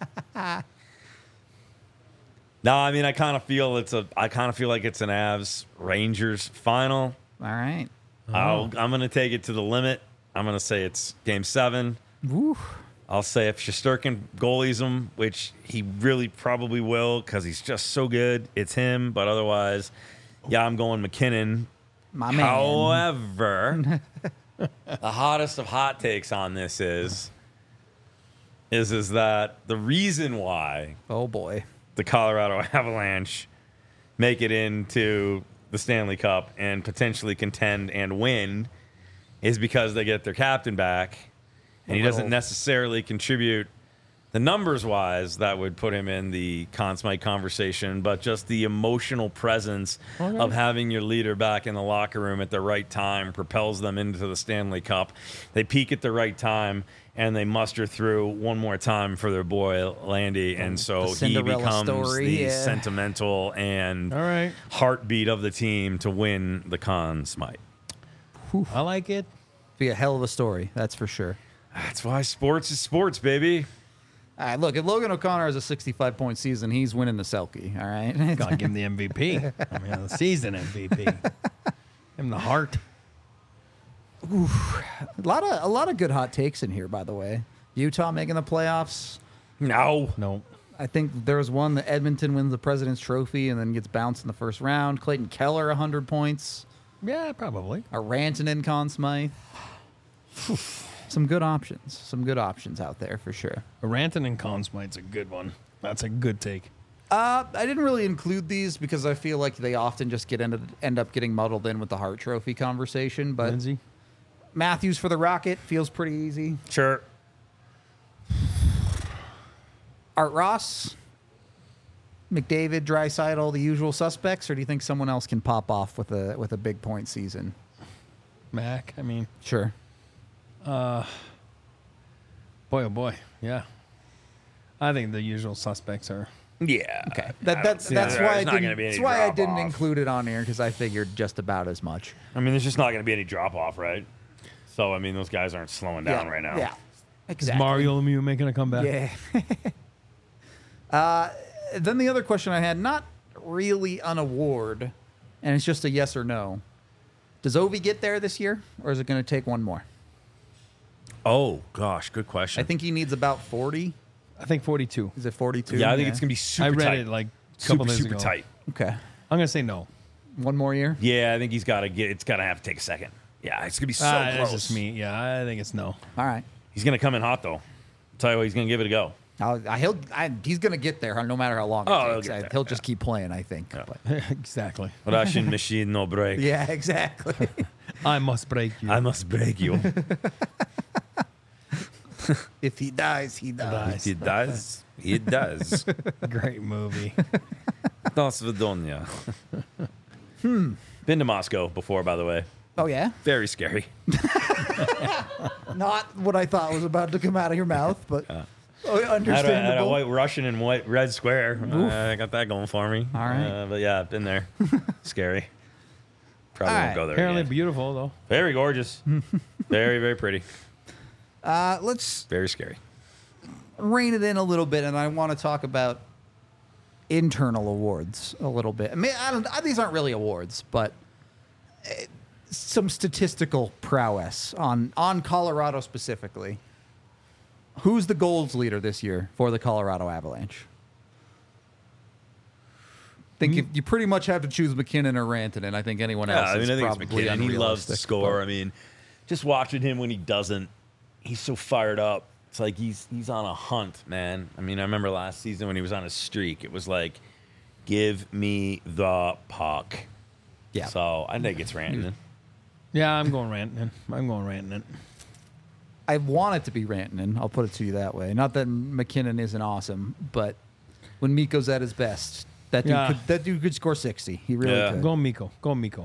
Speaker 2: no. I mean, I kind of feel it's a. I kind of feel like it's an Avs Rangers final.
Speaker 1: All right.
Speaker 2: I'll, I'm gonna take it to the limit. I'm gonna say it's Game Seven.
Speaker 1: Woo.
Speaker 2: I'll say if Shesterkin goalies him, which he really probably will because he's just so good, it's him. But otherwise, yeah, I'm going McKinnon.
Speaker 1: My man.
Speaker 2: However, the hottest of hot takes on this is, is is that the reason why
Speaker 1: Oh, boy.
Speaker 2: the Colorado Avalanche make it into the Stanley Cup and potentially contend and win is because they get their captain back. And he doesn't
Speaker 1: Little-
Speaker 2: necessarily contribute the numbers wise that would put him in the Conn Smythe conversation, but just the emotional presence
Speaker 3: Okay.
Speaker 2: of having your leader back in the locker room at the right time propels them into the Stanley Cup. They peak at the right time and they muster through one more time for their boy Landy, and so he
Speaker 1: Cinderella
Speaker 2: becomes
Speaker 1: story,
Speaker 2: the
Speaker 1: yeah.
Speaker 2: sentimental and
Speaker 3: All right.
Speaker 2: heartbeat of the team to win the Conn Smythe.
Speaker 3: I like it.
Speaker 1: Be a hell of a story, that's for sure.
Speaker 2: That's why sports is sports, baby.
Speaker 1: All right, look, if Logan O'Connor has a sixty-five point season, he's winning the Selkie, all right?
Speaker 3: Gotta give him the M V P. I mean, the season M V P. Give him the heart.
Speaker 1: a lot of a lot of good hot takes in here, by the way. Utah making the playoffs.
Speaker 2: No.
Speaker 3: No.
Speaker 1: I think there was one that Edmonton wins the President's Trophy and then gets bounced in the first round. Clayton Keller, one hundred points.
Speaker 3: Yeah, probably.
Speaker 1: A Rantanen, Conn Smythe. Some good options. Some good options out there for sure.
Speaker 3: A Ranton and Conn Smythe's a good one. That's a good take.
Speaker 1: Uh, I didn't really include these because I feel like they often just get ended, end up getting muddled in with the Hart Trophy conversation. But
Speaker 3: Lindsay?
Speaker 1: Matthews for the Rocket feels pretty easy.
Speaker 2: Sure.
Speaker 1: Art Ross, McDavid, Draisaitl, the usual suspects, or do you think someone else can pop off with a with a big point season?
Speaker 3: Mac, I mean,
Speaker 1: Sure.
Speaker 3: boy, oh boy. Yeah. I think the usual suspects are.
Speaker 2: Yeah.
Speaker 1: Okay. That, that's
Speaker 2: Yeah,
Speaker 1: that's
Speaker 2: there's
Speaker 1: why I
Speaker 2: not
Speaker 1: didn't.
Speaker 2: gonna be any
Speaker 1: That's why I didn't
Speaker 2: drop-off.
Speaker 1: include it on here because I figured just about as much.
Speaker 2: I mean, there's just not going to be any drop off, right? So, I mean, those guys aren't slowing down
Speaker 1: yeah.
Speaker 2: right now.
Speaker 1: Yeah.
Speaker 3: Is
Speaker 1: Exactly.
Speaker 3: Mario Lemieux making a comeback?
Speaker 1: Yeah. uh, then the other question I had, not really an award, and it's just a yes or no. Does Ovi get there this year, or is it going to take one more?
Speaker 2: Oh, gosh. Good question.
Speaker 1: I think he needs about forty.
Speaker 3: I think forty-two.
Speaker 1: Is it forty-two?
Speaker 2: yeah, I think it's going to be super
Speaker 3: I read
Speaker 2: tight.
Speaker 3: it like a couple
Speaker 2: super,
Speaker 3: days
Speaker 2: super
Speaker 3: ago.
Speaker 2: tight.
Speaker 1: Okay.
Speaker 3: I'm going to say no.
Speaker 1: One more year?
Speaker 2: Yeah, I think he's got to get, it's got to have to take a second. Yeah, it's going to be so
Speaker 3: Ah, that's
Speaker 2: close.
Speaker 3: just me. Yeah, I think it's no.
Speaker 1: All right.
Speaker 2: He's going to come in hot, though. I'll tell you what, he's going to give it a go.
Speaker 1: I'll, I, he'll, I, he's going to get there no matter how long it
Speaker 2: Oh, he'll
Speaker 1: takes.
Speaker 2: get
Speaker 1: I-
Speaker 2: there,
Speaker 1: he'll
Speaker 2: yeah.
Speaker 1: just keep playing, I think.
Speaker 2: Yeah.
Speaker 1: But-
Speaker 3: Exactly.
Speaker 2: Russian machine, no break.
Speaker 1: yeah, exactly.
Speaker 3: I must break you.
Speaker 2: I must break you.
Speaker 1: If he dies, he dies.
Speaker 2: He does. He does.
Speaker 3: Great movie.
Speaker 2: Dos Vidonia. hmm. Been to Moscow before, by the way.
Speaker 1: Oh, yeah?
Speaker 2: Very scary.
Speaker 1: Not what I thought was about to come out of your mouth, but oh,
Speaker 2: I had a, had a
Speaker 1: understandable.
Speaker 2: white Russian and white red square. Uh, I got that going for me.
Speaker 1: All right.
Speaker 2: Uh, but yeah, I've been there. Scary. Probably
Speaker 1: All
Speaker 2: won't
Speaker 1: right.
Speaker 2: go there
Speaker 3: Apparently
Speaker 2: again.
Speaker 3: beautiful though.
Speaker 2: Very gorgeous. very, very pretty.
Speaker 1: Uh, let's
Speaker 2: Very scary.
Speaker 1: rein it in a little bit, and I want to talk about internal awards a little bit. I mean, I don't, I- these aren't really awards, but uh, some statistical prowess on on Colorado specifically. Who's the goals leader this year for the Colorado Avalanche? I think you, you pretty much have to choose McKinnon or Rantanen. I think anyone
Speaker 2: Yeah,
Speaker 1: else
Speaker 2: I mean,
Speaker 1: is
Speaker 2: I think it's
Speaker 1: probably
Speaker 2: McKinnon. He loves to
Speaker 1: unrealistic,
Speaker 2: score.
Speaker 1: but-
Speaker 2: I mean, just watching him when he doesn't, he's so fired up. It's like he's he's on a hunt, man. I mean, I remember last season when he was on a streak. It was like, give me the puck.
Speaker 1: Yeah.
Speaker 2: So I think it's Rantanen.
Speaker 3: Yeah, I'm going Rantanen. I'm going Rantanen.
Speaker 1: I want it to be Rantanen. I'll put it to you that way. Not that McKinnon isn't awesome, but when Mikko's at his best, that dude,
Speaker 3: Yeah.
Speaker 1: could, that dude could score sixty. He really
Speaker 2: Yeah.
Speaker 1: could.
Speaker 3: Go Miko. Go Miko.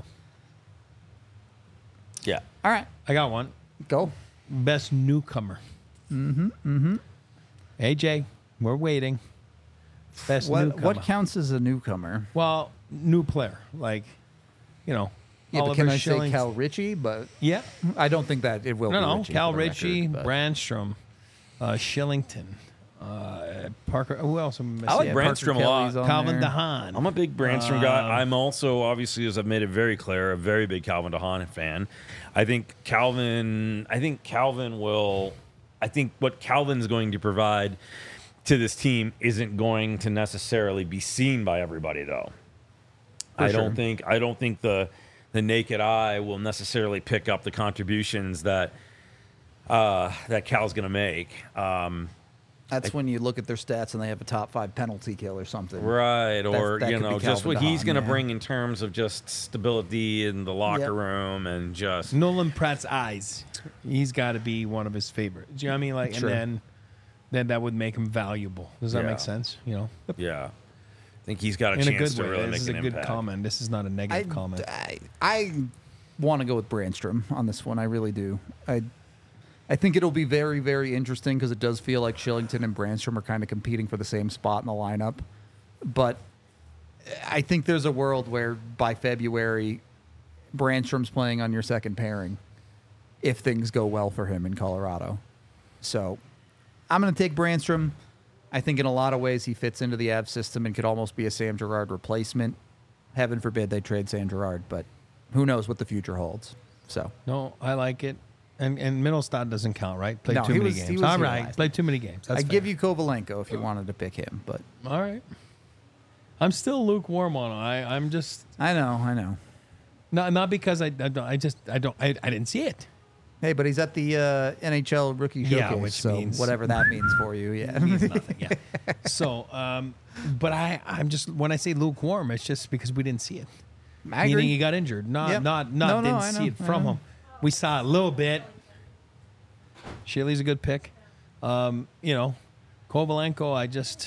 Speaker 2: Yeah.
Speaker 1: All right,
Speaker 3: I got one.
Speaker 1: go.
Speaker 3: Best newcomer. Mm-hmm. Mm-hmm. A J, we're waiting. Best
Speaker 1: What,
Speaker 3: newcomer.
Speaker 1: what counts as a newcomer?
Speaker 3: Well, new player. Like, you know,
Speaker 1: Yeah, but
Speaker 3: Oliver
Speaker 1: can I
Speaker 3: Schilling.
Speaker 1: say Cal Ritchie? But
Speaker 3: Yeah.
Speaker 1: I don't think that it will
Speaker 3: No,
Speaker 1: be
Speaker 3: no.
Speaker 1: Ritchie.
Speaker 3: Cal
Speaker 1: for the
Speaker 3: Ritchie,
Speaker 1: record, but-
Speaker 3: Brandstrom, uh, Shillington, uh, Parker. Who else am I missing?
Speaker 2: I like
Speaker 1: Yeah,
Speaker 2: Brandstrom
Speaker 1: Parker
Speaker 2: a lot.
Speaker 1: Kelly's on
Speaker 3: Calvin
Speaker 1: there.
Speaker 3: DeHaan.
Speaker 2: I'm a big Brandstrom
Speaker 3: Um,
Speaker 2: guy. I'm also, obviously, as I've made it very clear, a very big Calvin DeHaan fan. I think Calvin. I think Calvin will. I think what Calvin's going to provide to this team isn't going to necessarily be seen by everybody, though.
Speaker 1: For
Speaker 2: I
Speaker 1: sure.
Speaker 2: don't think. I don't think the the naked eye will necessarily pick up the contributions that uh, that Cal's going to make. Um,
Speaker 1: That's when you look at their stats and they have a top five penalty kill or something.
Speaker 2: Right, or
Speaker 1: that
Speaker 2: you
Speaker 1: could
Speaker 2: know,
Speaker 1: be
Speaker 2: just
Speaker 1: Calvin
Speaker 2: what he's
Speaker 1: DeHaan,
Speaker 2: going to
Speaker 1: yeah.
Speaker 2: bring in terms of just stability in the locker
Speaker 1: Yep.
Speaker 2: room and just
Speaker 3: Nolan Pratt's eyes. He's got to be one of his favorites. Do you know what I mean? Like,
Speaker 1: Sure.
Speaker 3: and then, then that would make him valuable. Does that
Speaker 2: Yeah.
Speaker 3: make sense? You know,
Speaker 2: yeah. I think he's got a
Speaker 3: in a
Speaker 2: chance
Speaker 3: good
Speaker 2: to
Speaker 3: way.
Speaker 2: really
Speaker 3: This
Speaker 2: make
Speaker 3: is
Speaker 2: an
Speaker 3: a good
Speaker 2: impact.
Speaker 3: comment. This is not a
Speaker 1: I,
Speaker 3: negative comment.
Speaker 1: I, I want to go with Brandstrom on this one. I really do. I I think it'll be very, very interesting because it does feel like Shillington and Brandstrom are kind of competing for the same spot in the lineup. But I think there's a world where by February, Brandstrom's playing on your second pairing if things go well for him in Colorado. So I'm going to take Brandstrom. I think in a lot of ways he fits into the Avs system and could almost be a Sam Girard replacement. Heaven forbid they trade Sam Girard, but who knows what the future holds. So
Speaker 3: No, I like it. And and Middlestad doesn't count, right? Played
Speaker 1: No,
Speaker 3: too
Speaker 1: he
Speaker 3: many
Speaker 1: was- he
Speaker 3: games.
Speaker 1: was
Speaker 3: All
Speaker 1: here
Speaker 3: right,
Speaker 1: last
Speaker 3: played too many games. That's
Speaker 1: I give
Speaker 3: fair.
Speaker 1: you Kovalenko if you wanted to pick him, but
Speaker 3: All right. I'm still lukewarm on him. I I'm just
Speaker 1: I know, I know.
Speaker 3: not not because I I, don't, I just I don't I, I didn't see it.
Speaker 1: Hey, but he's at the uh, N H L rookie showcase,
Speaker 3: Yeah, which
Speaker 1: so
Speaker 3: means-
Speaker 1: whatever that means for you, yeah.
Speaker 3: It means nothing. Yeah. So, um, but I I'm just when I say lukewarm, it's just because we didn't see it.
Speaker 1: I
Speaker 3: Meaning
Speaker 1: agree.
Speaker 3: he got injured. Not
Speaker 1: Yep.
Speaker 3: not not
Speaker 1: No, no,
Speaker 3: didn't
Speaker 1: I
Speaker 3: see
Speaker 1: know,
Speaker 3: it
Speaker 1: I
Speaker 3: from
Speaker 1: know.
Speaker 3: him. We saw a little bit. Shirley's a good pick. Um, you know, Kovalenko, I just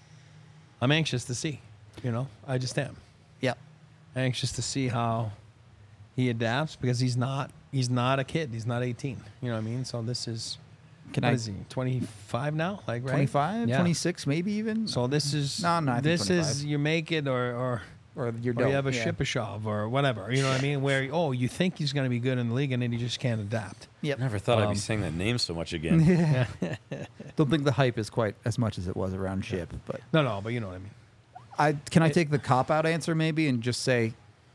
Speaker 3: I'm anxious to see. You know, I just am
Speaker 1: Yep.
Speaker 3: anxious to see how he adapts because he's not he's not a kid. He's not eighteen. You know what I mean? So this is
Speaker 1: Can
Speaker 3: what
Speaker 1: I
Speaker 3: is he? twenty-five now? Like right?
Speaker 1: twenty-five,
Speaker 3: Yeah.
Speaker 1: twenty-six, maybe even?
Speaker 3: So this is
Speaker 1: No, no, I think
Speaker 3: this is
Speaker 1: twenty-five.
Speaker 3: you make it or or
Speaker 1: or you're
Speaker 3: or you have a
Speaker 1: yeah.
Speaker 3: Shipashov or whatever. You know what I mean? Where oh you think he's going to be good in the league and then he just can't adapt.
Speaker 1: Yep.
Speaker 2: Never thought I'd
Speaker 3: Um,
Speaker 2: be saying that name so much again.
Speaker 1: Don't think the hype is quite as much as it was around Ship, but
Speaker 3: No, no, but you know what I mean.
Speaker 1: I can I take the cop out answer maybe and just say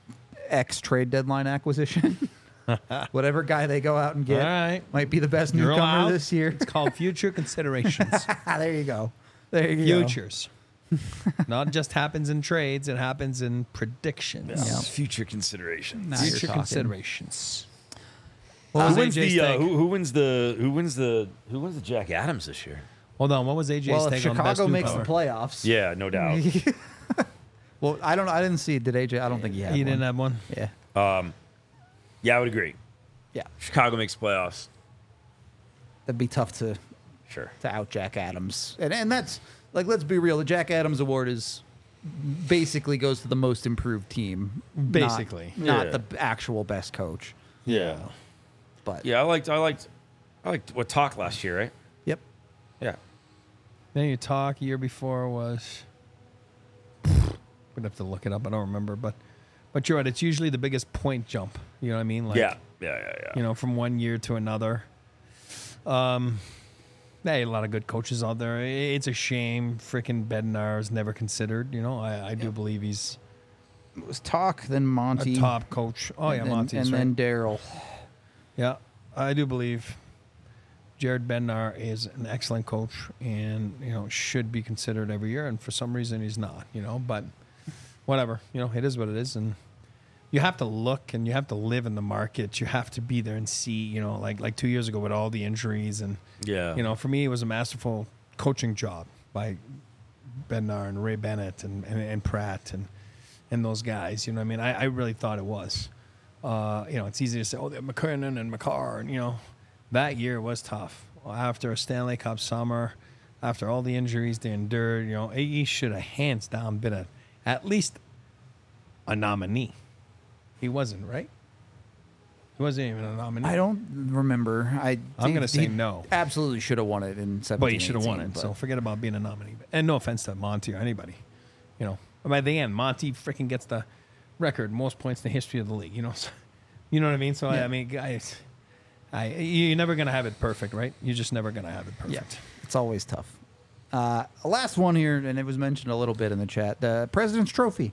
Speaker 1: X trade deadline acquisition. Whatever guy they go out and get
Speaker 3: All right.
Speaker 1: might be the best
Speaker 3: You're
Speaker 1: newcomer
Speaker 3: allowed.
Speaker 1: this year.
Speaker 3: It's called future considerations.
Speaker 1: there you go. There you go.
Speaker 3: Futures. Not just happens in trades, it happens in predictions.
Speaker 1: Yeah.
Speaker 2: Future consideration.
Speaker 1: Now you're
Speaker 3: Future
Speaker 1: talking.
Speaker 3: considerations.
Speaker 2: Who
Speaker 3: What was
Speaker 2: wins
Speaker 3: A J's
Speaker 2: the uh,
Speaker 3: take?
Speaker 2: who, who wins the who wins the who wins the Jack Adams this year?
Speaker 3: Hold on, what was A J's
Speaker 1: Well, if
Speaker 3: take on best
Speaker 1: Chicago makes the
Speaker 3: newcomer?
Speaker 1: playoffs,
Speaker 2: Yeah, no doubt.
Speaker 1: well, I don't. I didn't see. Did A J? I don't think he had.
Speaker 3: He
Speaker 1: one.
Speaker 3: didn't have one.
Speaker 1: Yeah.
Speaker 2: Yeah, I would agree.
Speaker 1: Yeah.
Speaker 2: Chicago makes playoffs.
Speaker 1: That'd be tough to
Speaker 2: Sure.
Speaker 1: to out Jack Adams, and and that's like let's be real. The Jack Adams Award is basically goes to the most improved team, not-
Speaker 3: Basically.
Speaker 1: not,
Speaker 2: Yeah.
Speaker 1: the actual best coach.
Speaker 2: Yeah.
Speaker 1: But
Speaker 2: Yeah, I liked I liked I liked what talk last year, right?
Speaker 1: yep.
Speaker 2: Yeah.
Speaker 3: Then you talk year before was we'd have to look it up, I don't remember, but But you're right. It's usually the biggest point jump. You know what I mean? Like,
Speaker 2: yeah, yeah, yeah, yeah.
Speaker 3: You know, from one year to another. Um, hey, a lot of good coaches out there. It's a shame freaking Bednar is never considered. You know, I, I do believe he's
Speaker 1: It was Talk, then
Speaker 3: a
Speaker 1: Monty,
Speaker 3: top coach. Oh, yeah,
Speaker 1: and then,
Speaker 3: Monty's
Speaker 1: and
Speaker 3: right.
Speaker 1: then Daryl.
Speaker 3: Yeah, I do believe Jared Bednar is an excellent coach and, you know, should be considered every year. And for some reason, he's not, you know, but whatever. You know, it is what it is. And you have to look and you have to live in the market. You have to be there and see, you know, like like two years ago with all the injuries. And,
Speaker 2: Yeah.
Speaker 3: you know, for me, it was a masterful coaching job by Bednar and Ray Bennett and, and, and Pratt and, and those guys. You know what I mean? I, I really thought it was. Uh, you know, it's easy to say, oh, they're McKernan and McCarr. And, you know, that year was tough. After a Stanley Cup summer, after all the injuries they endured, you know, he should have hands down been a, at least a nominee. He wasn't, right? He wasn't even a nominee.
Speaker 1: I don't remember. I
Speaker 3: I'm
Speaker 1: he-
Speaker 3: gonna say
Speaker 1: he
Speaker 3: no.
Speaker 1: Absolutely should have won it in seventeen.
Speaker 3: But he should have won
Speaker 1: eighteen,
Speaker 3: it.
Speaker 1: but-
Speaker 3: So forget about being a nominee. And no offense to Monty or anybody. You know, by the end, Monty freaking gets the record most points in the history of the league. You know, so, you know what I mean. So I,
Speaker 1: Yeah.
Speaker 3: I mean, guys, I you're never gonna have it perfect, right? You're just never gonna have it perfect.
Speaker 1: Yeah, it's always tough. Uh, last one here, and it was mentioned a little bit in the chat. The President's Trophy.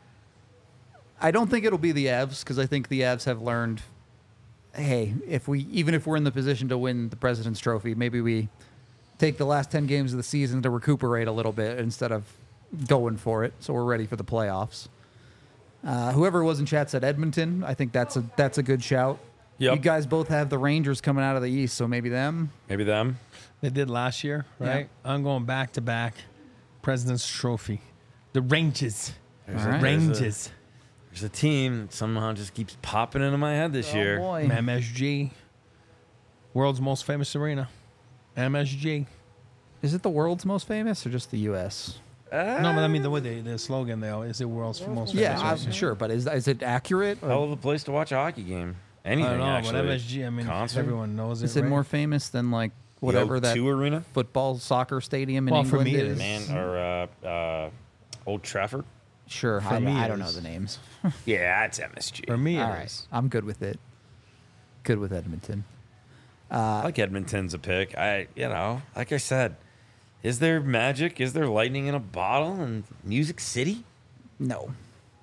Speaker 1: I don't think it'll be the Avs because I think the Avs have learned. Hey, if we even if we're in the position to win the President's Trophy, maybe we take the last ten games of the season to recuperate a little bit instead of going for it. So we're ready for the playoffs. Uh, whoever was in chat said Edmonton. I think that's a that's a good shout.
Speaker 2: Yep.
Speaker 1: You guys both have the Rangers coming out of the East, so maybe them.
Speaker 2: Maybe them.
Speaker 3: They did last year, right? I'm going back to back. President's Trophy. The Rangers.
Speaker 2: There's,
Speaker 1: All
Speaker 2: a,
Speaker 1: right.
Speaker 2: there's, a,
Speaker 3: Rangers.
Speaker 2: there's a team that somehow just keeps popping into my head this
Speaker 1: Oh,
Speaker 2: year.
Speaker 1: boy.
Speaker 3: M S G. World's most famous arena. M S G.
Speaker 1: Is it the world's most famous or just the U S?
Speaker 3: No, but I mean the way they, the slogan though is the world's most
Speaker 1: Yeah,
Speaker 3: famous.
Speaker 1: I'm
Speaker 3: arena.
Speaker 1: sure, but is is it accurate? Or
Speaker 2: Hell of a place to watch a hockey game. Anything,
Speaker 3: I don't know,
Speaker 2: actually.
Speaker 3: but M S G, I mean,
Speaker 2: Concert?
Speaker 3: everyone knows it.
Speaker 1: is it
Speaker 3: right?
Speaker 1: more famous than like
Speaker 2: The
Speaker 1: whatever
Speaker 2: O
Speaker 1: that
Speaker 2: two Arena?
Speaker 1: football soccer stadium in
Speaker 3: Well, for
Speaker 1: England
Speaker 3: me it
Speaker 1: is?
Speaker 3: is.
Speaker 2: Man, or uh, uh, Old Trafford?
Speaker 1: Sure,
Speaker 3: For
Speaker 1: I,
Speaker 3: me
Speaker 1: I
Speaker 3: it
Speaker 1: don't know
Speaker 3: is.
Speaker 1: the names.
Speaker 2: Yeah, it's M S G.
Speaker 3: For me, it
Speaker 1: All right,
Speaker 3: is.
Speaker 1: I'm good with it. Good with Edmonton.
Speaker 2: I like Edmonton's a pick. I, you know, like I said, is there magic? Is there lightning in a bottle in Music City?
Speaker 1: No,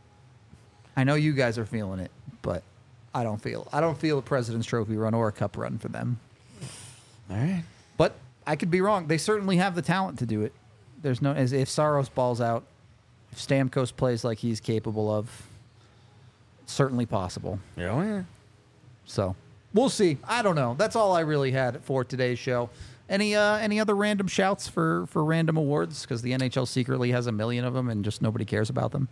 Speaker 1: I know you guys are feeling it, but I don't feel. I don't feel a President's Trophy run or a Cup run for them.
Speaker 2: All right.
Speaker 1: But I could be wrong. They certainly have the talent to do it. There's no as if Saros balls out, if Stamkos plays like he's capable of, certainly possible.
Speaker 2: Yeah, oh, yeah.
Speaker 1: So we'll see. I don't know. That's all I really had for today's show. Any uh, any other random shouts for for random awards? Because the N H L secretly has a million of them and just nobody cares about them.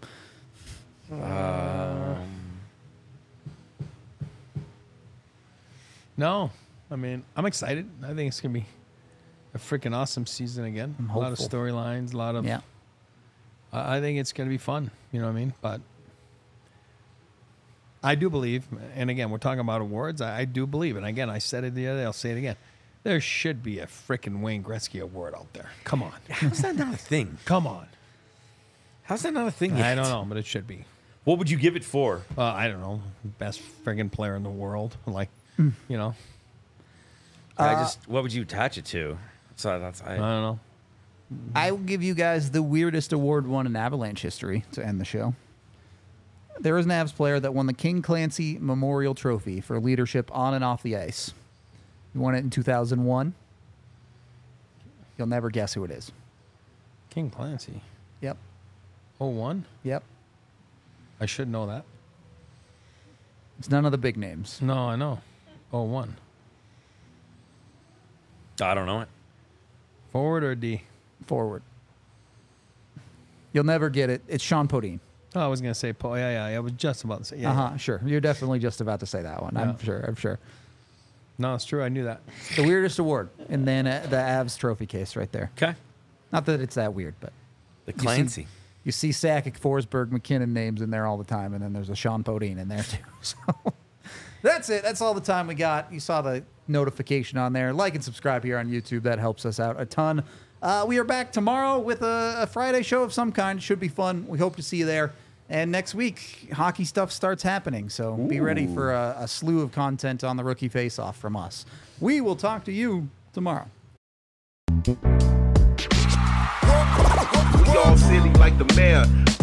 Speaker 3: No, I mean, I'm excited. I think it's gonna be a freaking awesome season again.
Speaker 1: I'm
Speaker 3: a lot of
Speaker 1: hopeful.
Speaker 3: storylines, a lot of.
Speaker 1: Yeah.
Speaker 3: I I think it's gonna be fun. You know what I mean? But I do believe, and again, we're talking about awards. I, I do believe, and again, I said it the other day. I'll say it again. There should be a freaking Wayne Gretzky award out there. Come on,
Speaker 2: How's that not a thing?
Speaker 3: come on.
Speaker 2: How's that not a thing yet?
Speaker 3: I don't know, but it should be.
Speaker 2: What would you give it for?
Speaker 3: Uh, I don't know, best friggin' player in the world. Like,
Speaker 1: Hmm.
Speaker 3: you know,
Speaker 2: I just, what would you attach it to? So that's, I,
Speaker 3: I don't know.
Speaker 1: I will give you guys the weirdest award won in Avalanche history to end the show. There is an Avs player that won the King Clancy Memorial Trophy for leadership on and off the ice. He won it in two thousand one. You'll never guess who it is.
Speaker 3: King Clancy.
Speaker 1: Yep.
Speaker 3: Oh one.
Speaker 1: Yep.
Speaker 3: I should know that.
Speaker 1: It's none of the big names.
Speaker 3: No, I know. Oh one.
Speaker 2: I don't know it.
Speaker 3: Forward or D?
Speaker 1: Forward. You'll never get it. It's Sean Podine.
Speaker 3: Oh, I was gonna say Paul. Yeah, yeah, yeah. I was just about to say. Yeah.
Speaker 1: Uh
Speaker 3: yeah.
Speaker 1: huh. Sure. You're definitely just about to say that one. I'm
Speaker 3: Yeah.
Speaker 1: sure. I'm sure.
Speaker 3: No, it's true. I knew that.
Speaker 1: The weirdest award, and then uh, the Avs trophy case right there.
Speaker 2: Okay.
Speaker 1: Not that it's that weird, but
Speaker 2: The
Speaker 1: You see-
Speaker 2: Clancy.
Speaker 1: you see Sakic, Forsberg, McKinnon names in there all the time, and then there's a Sean Podine in there too. So that's it. That's all the time we got. You saw the notification on there. Like and subscribe here on YouTube. That helps us out a ton. Uh, we are back tomorrow with a, a Friday show of some kind. Should be fun. We hope to see you there. And next week, hockey stuff starts happening. So be ready for a, a slew of content on the Rookie Face-Off from us. We will talk to you tomorrow.
Speaker 5: We all silly like the mayor.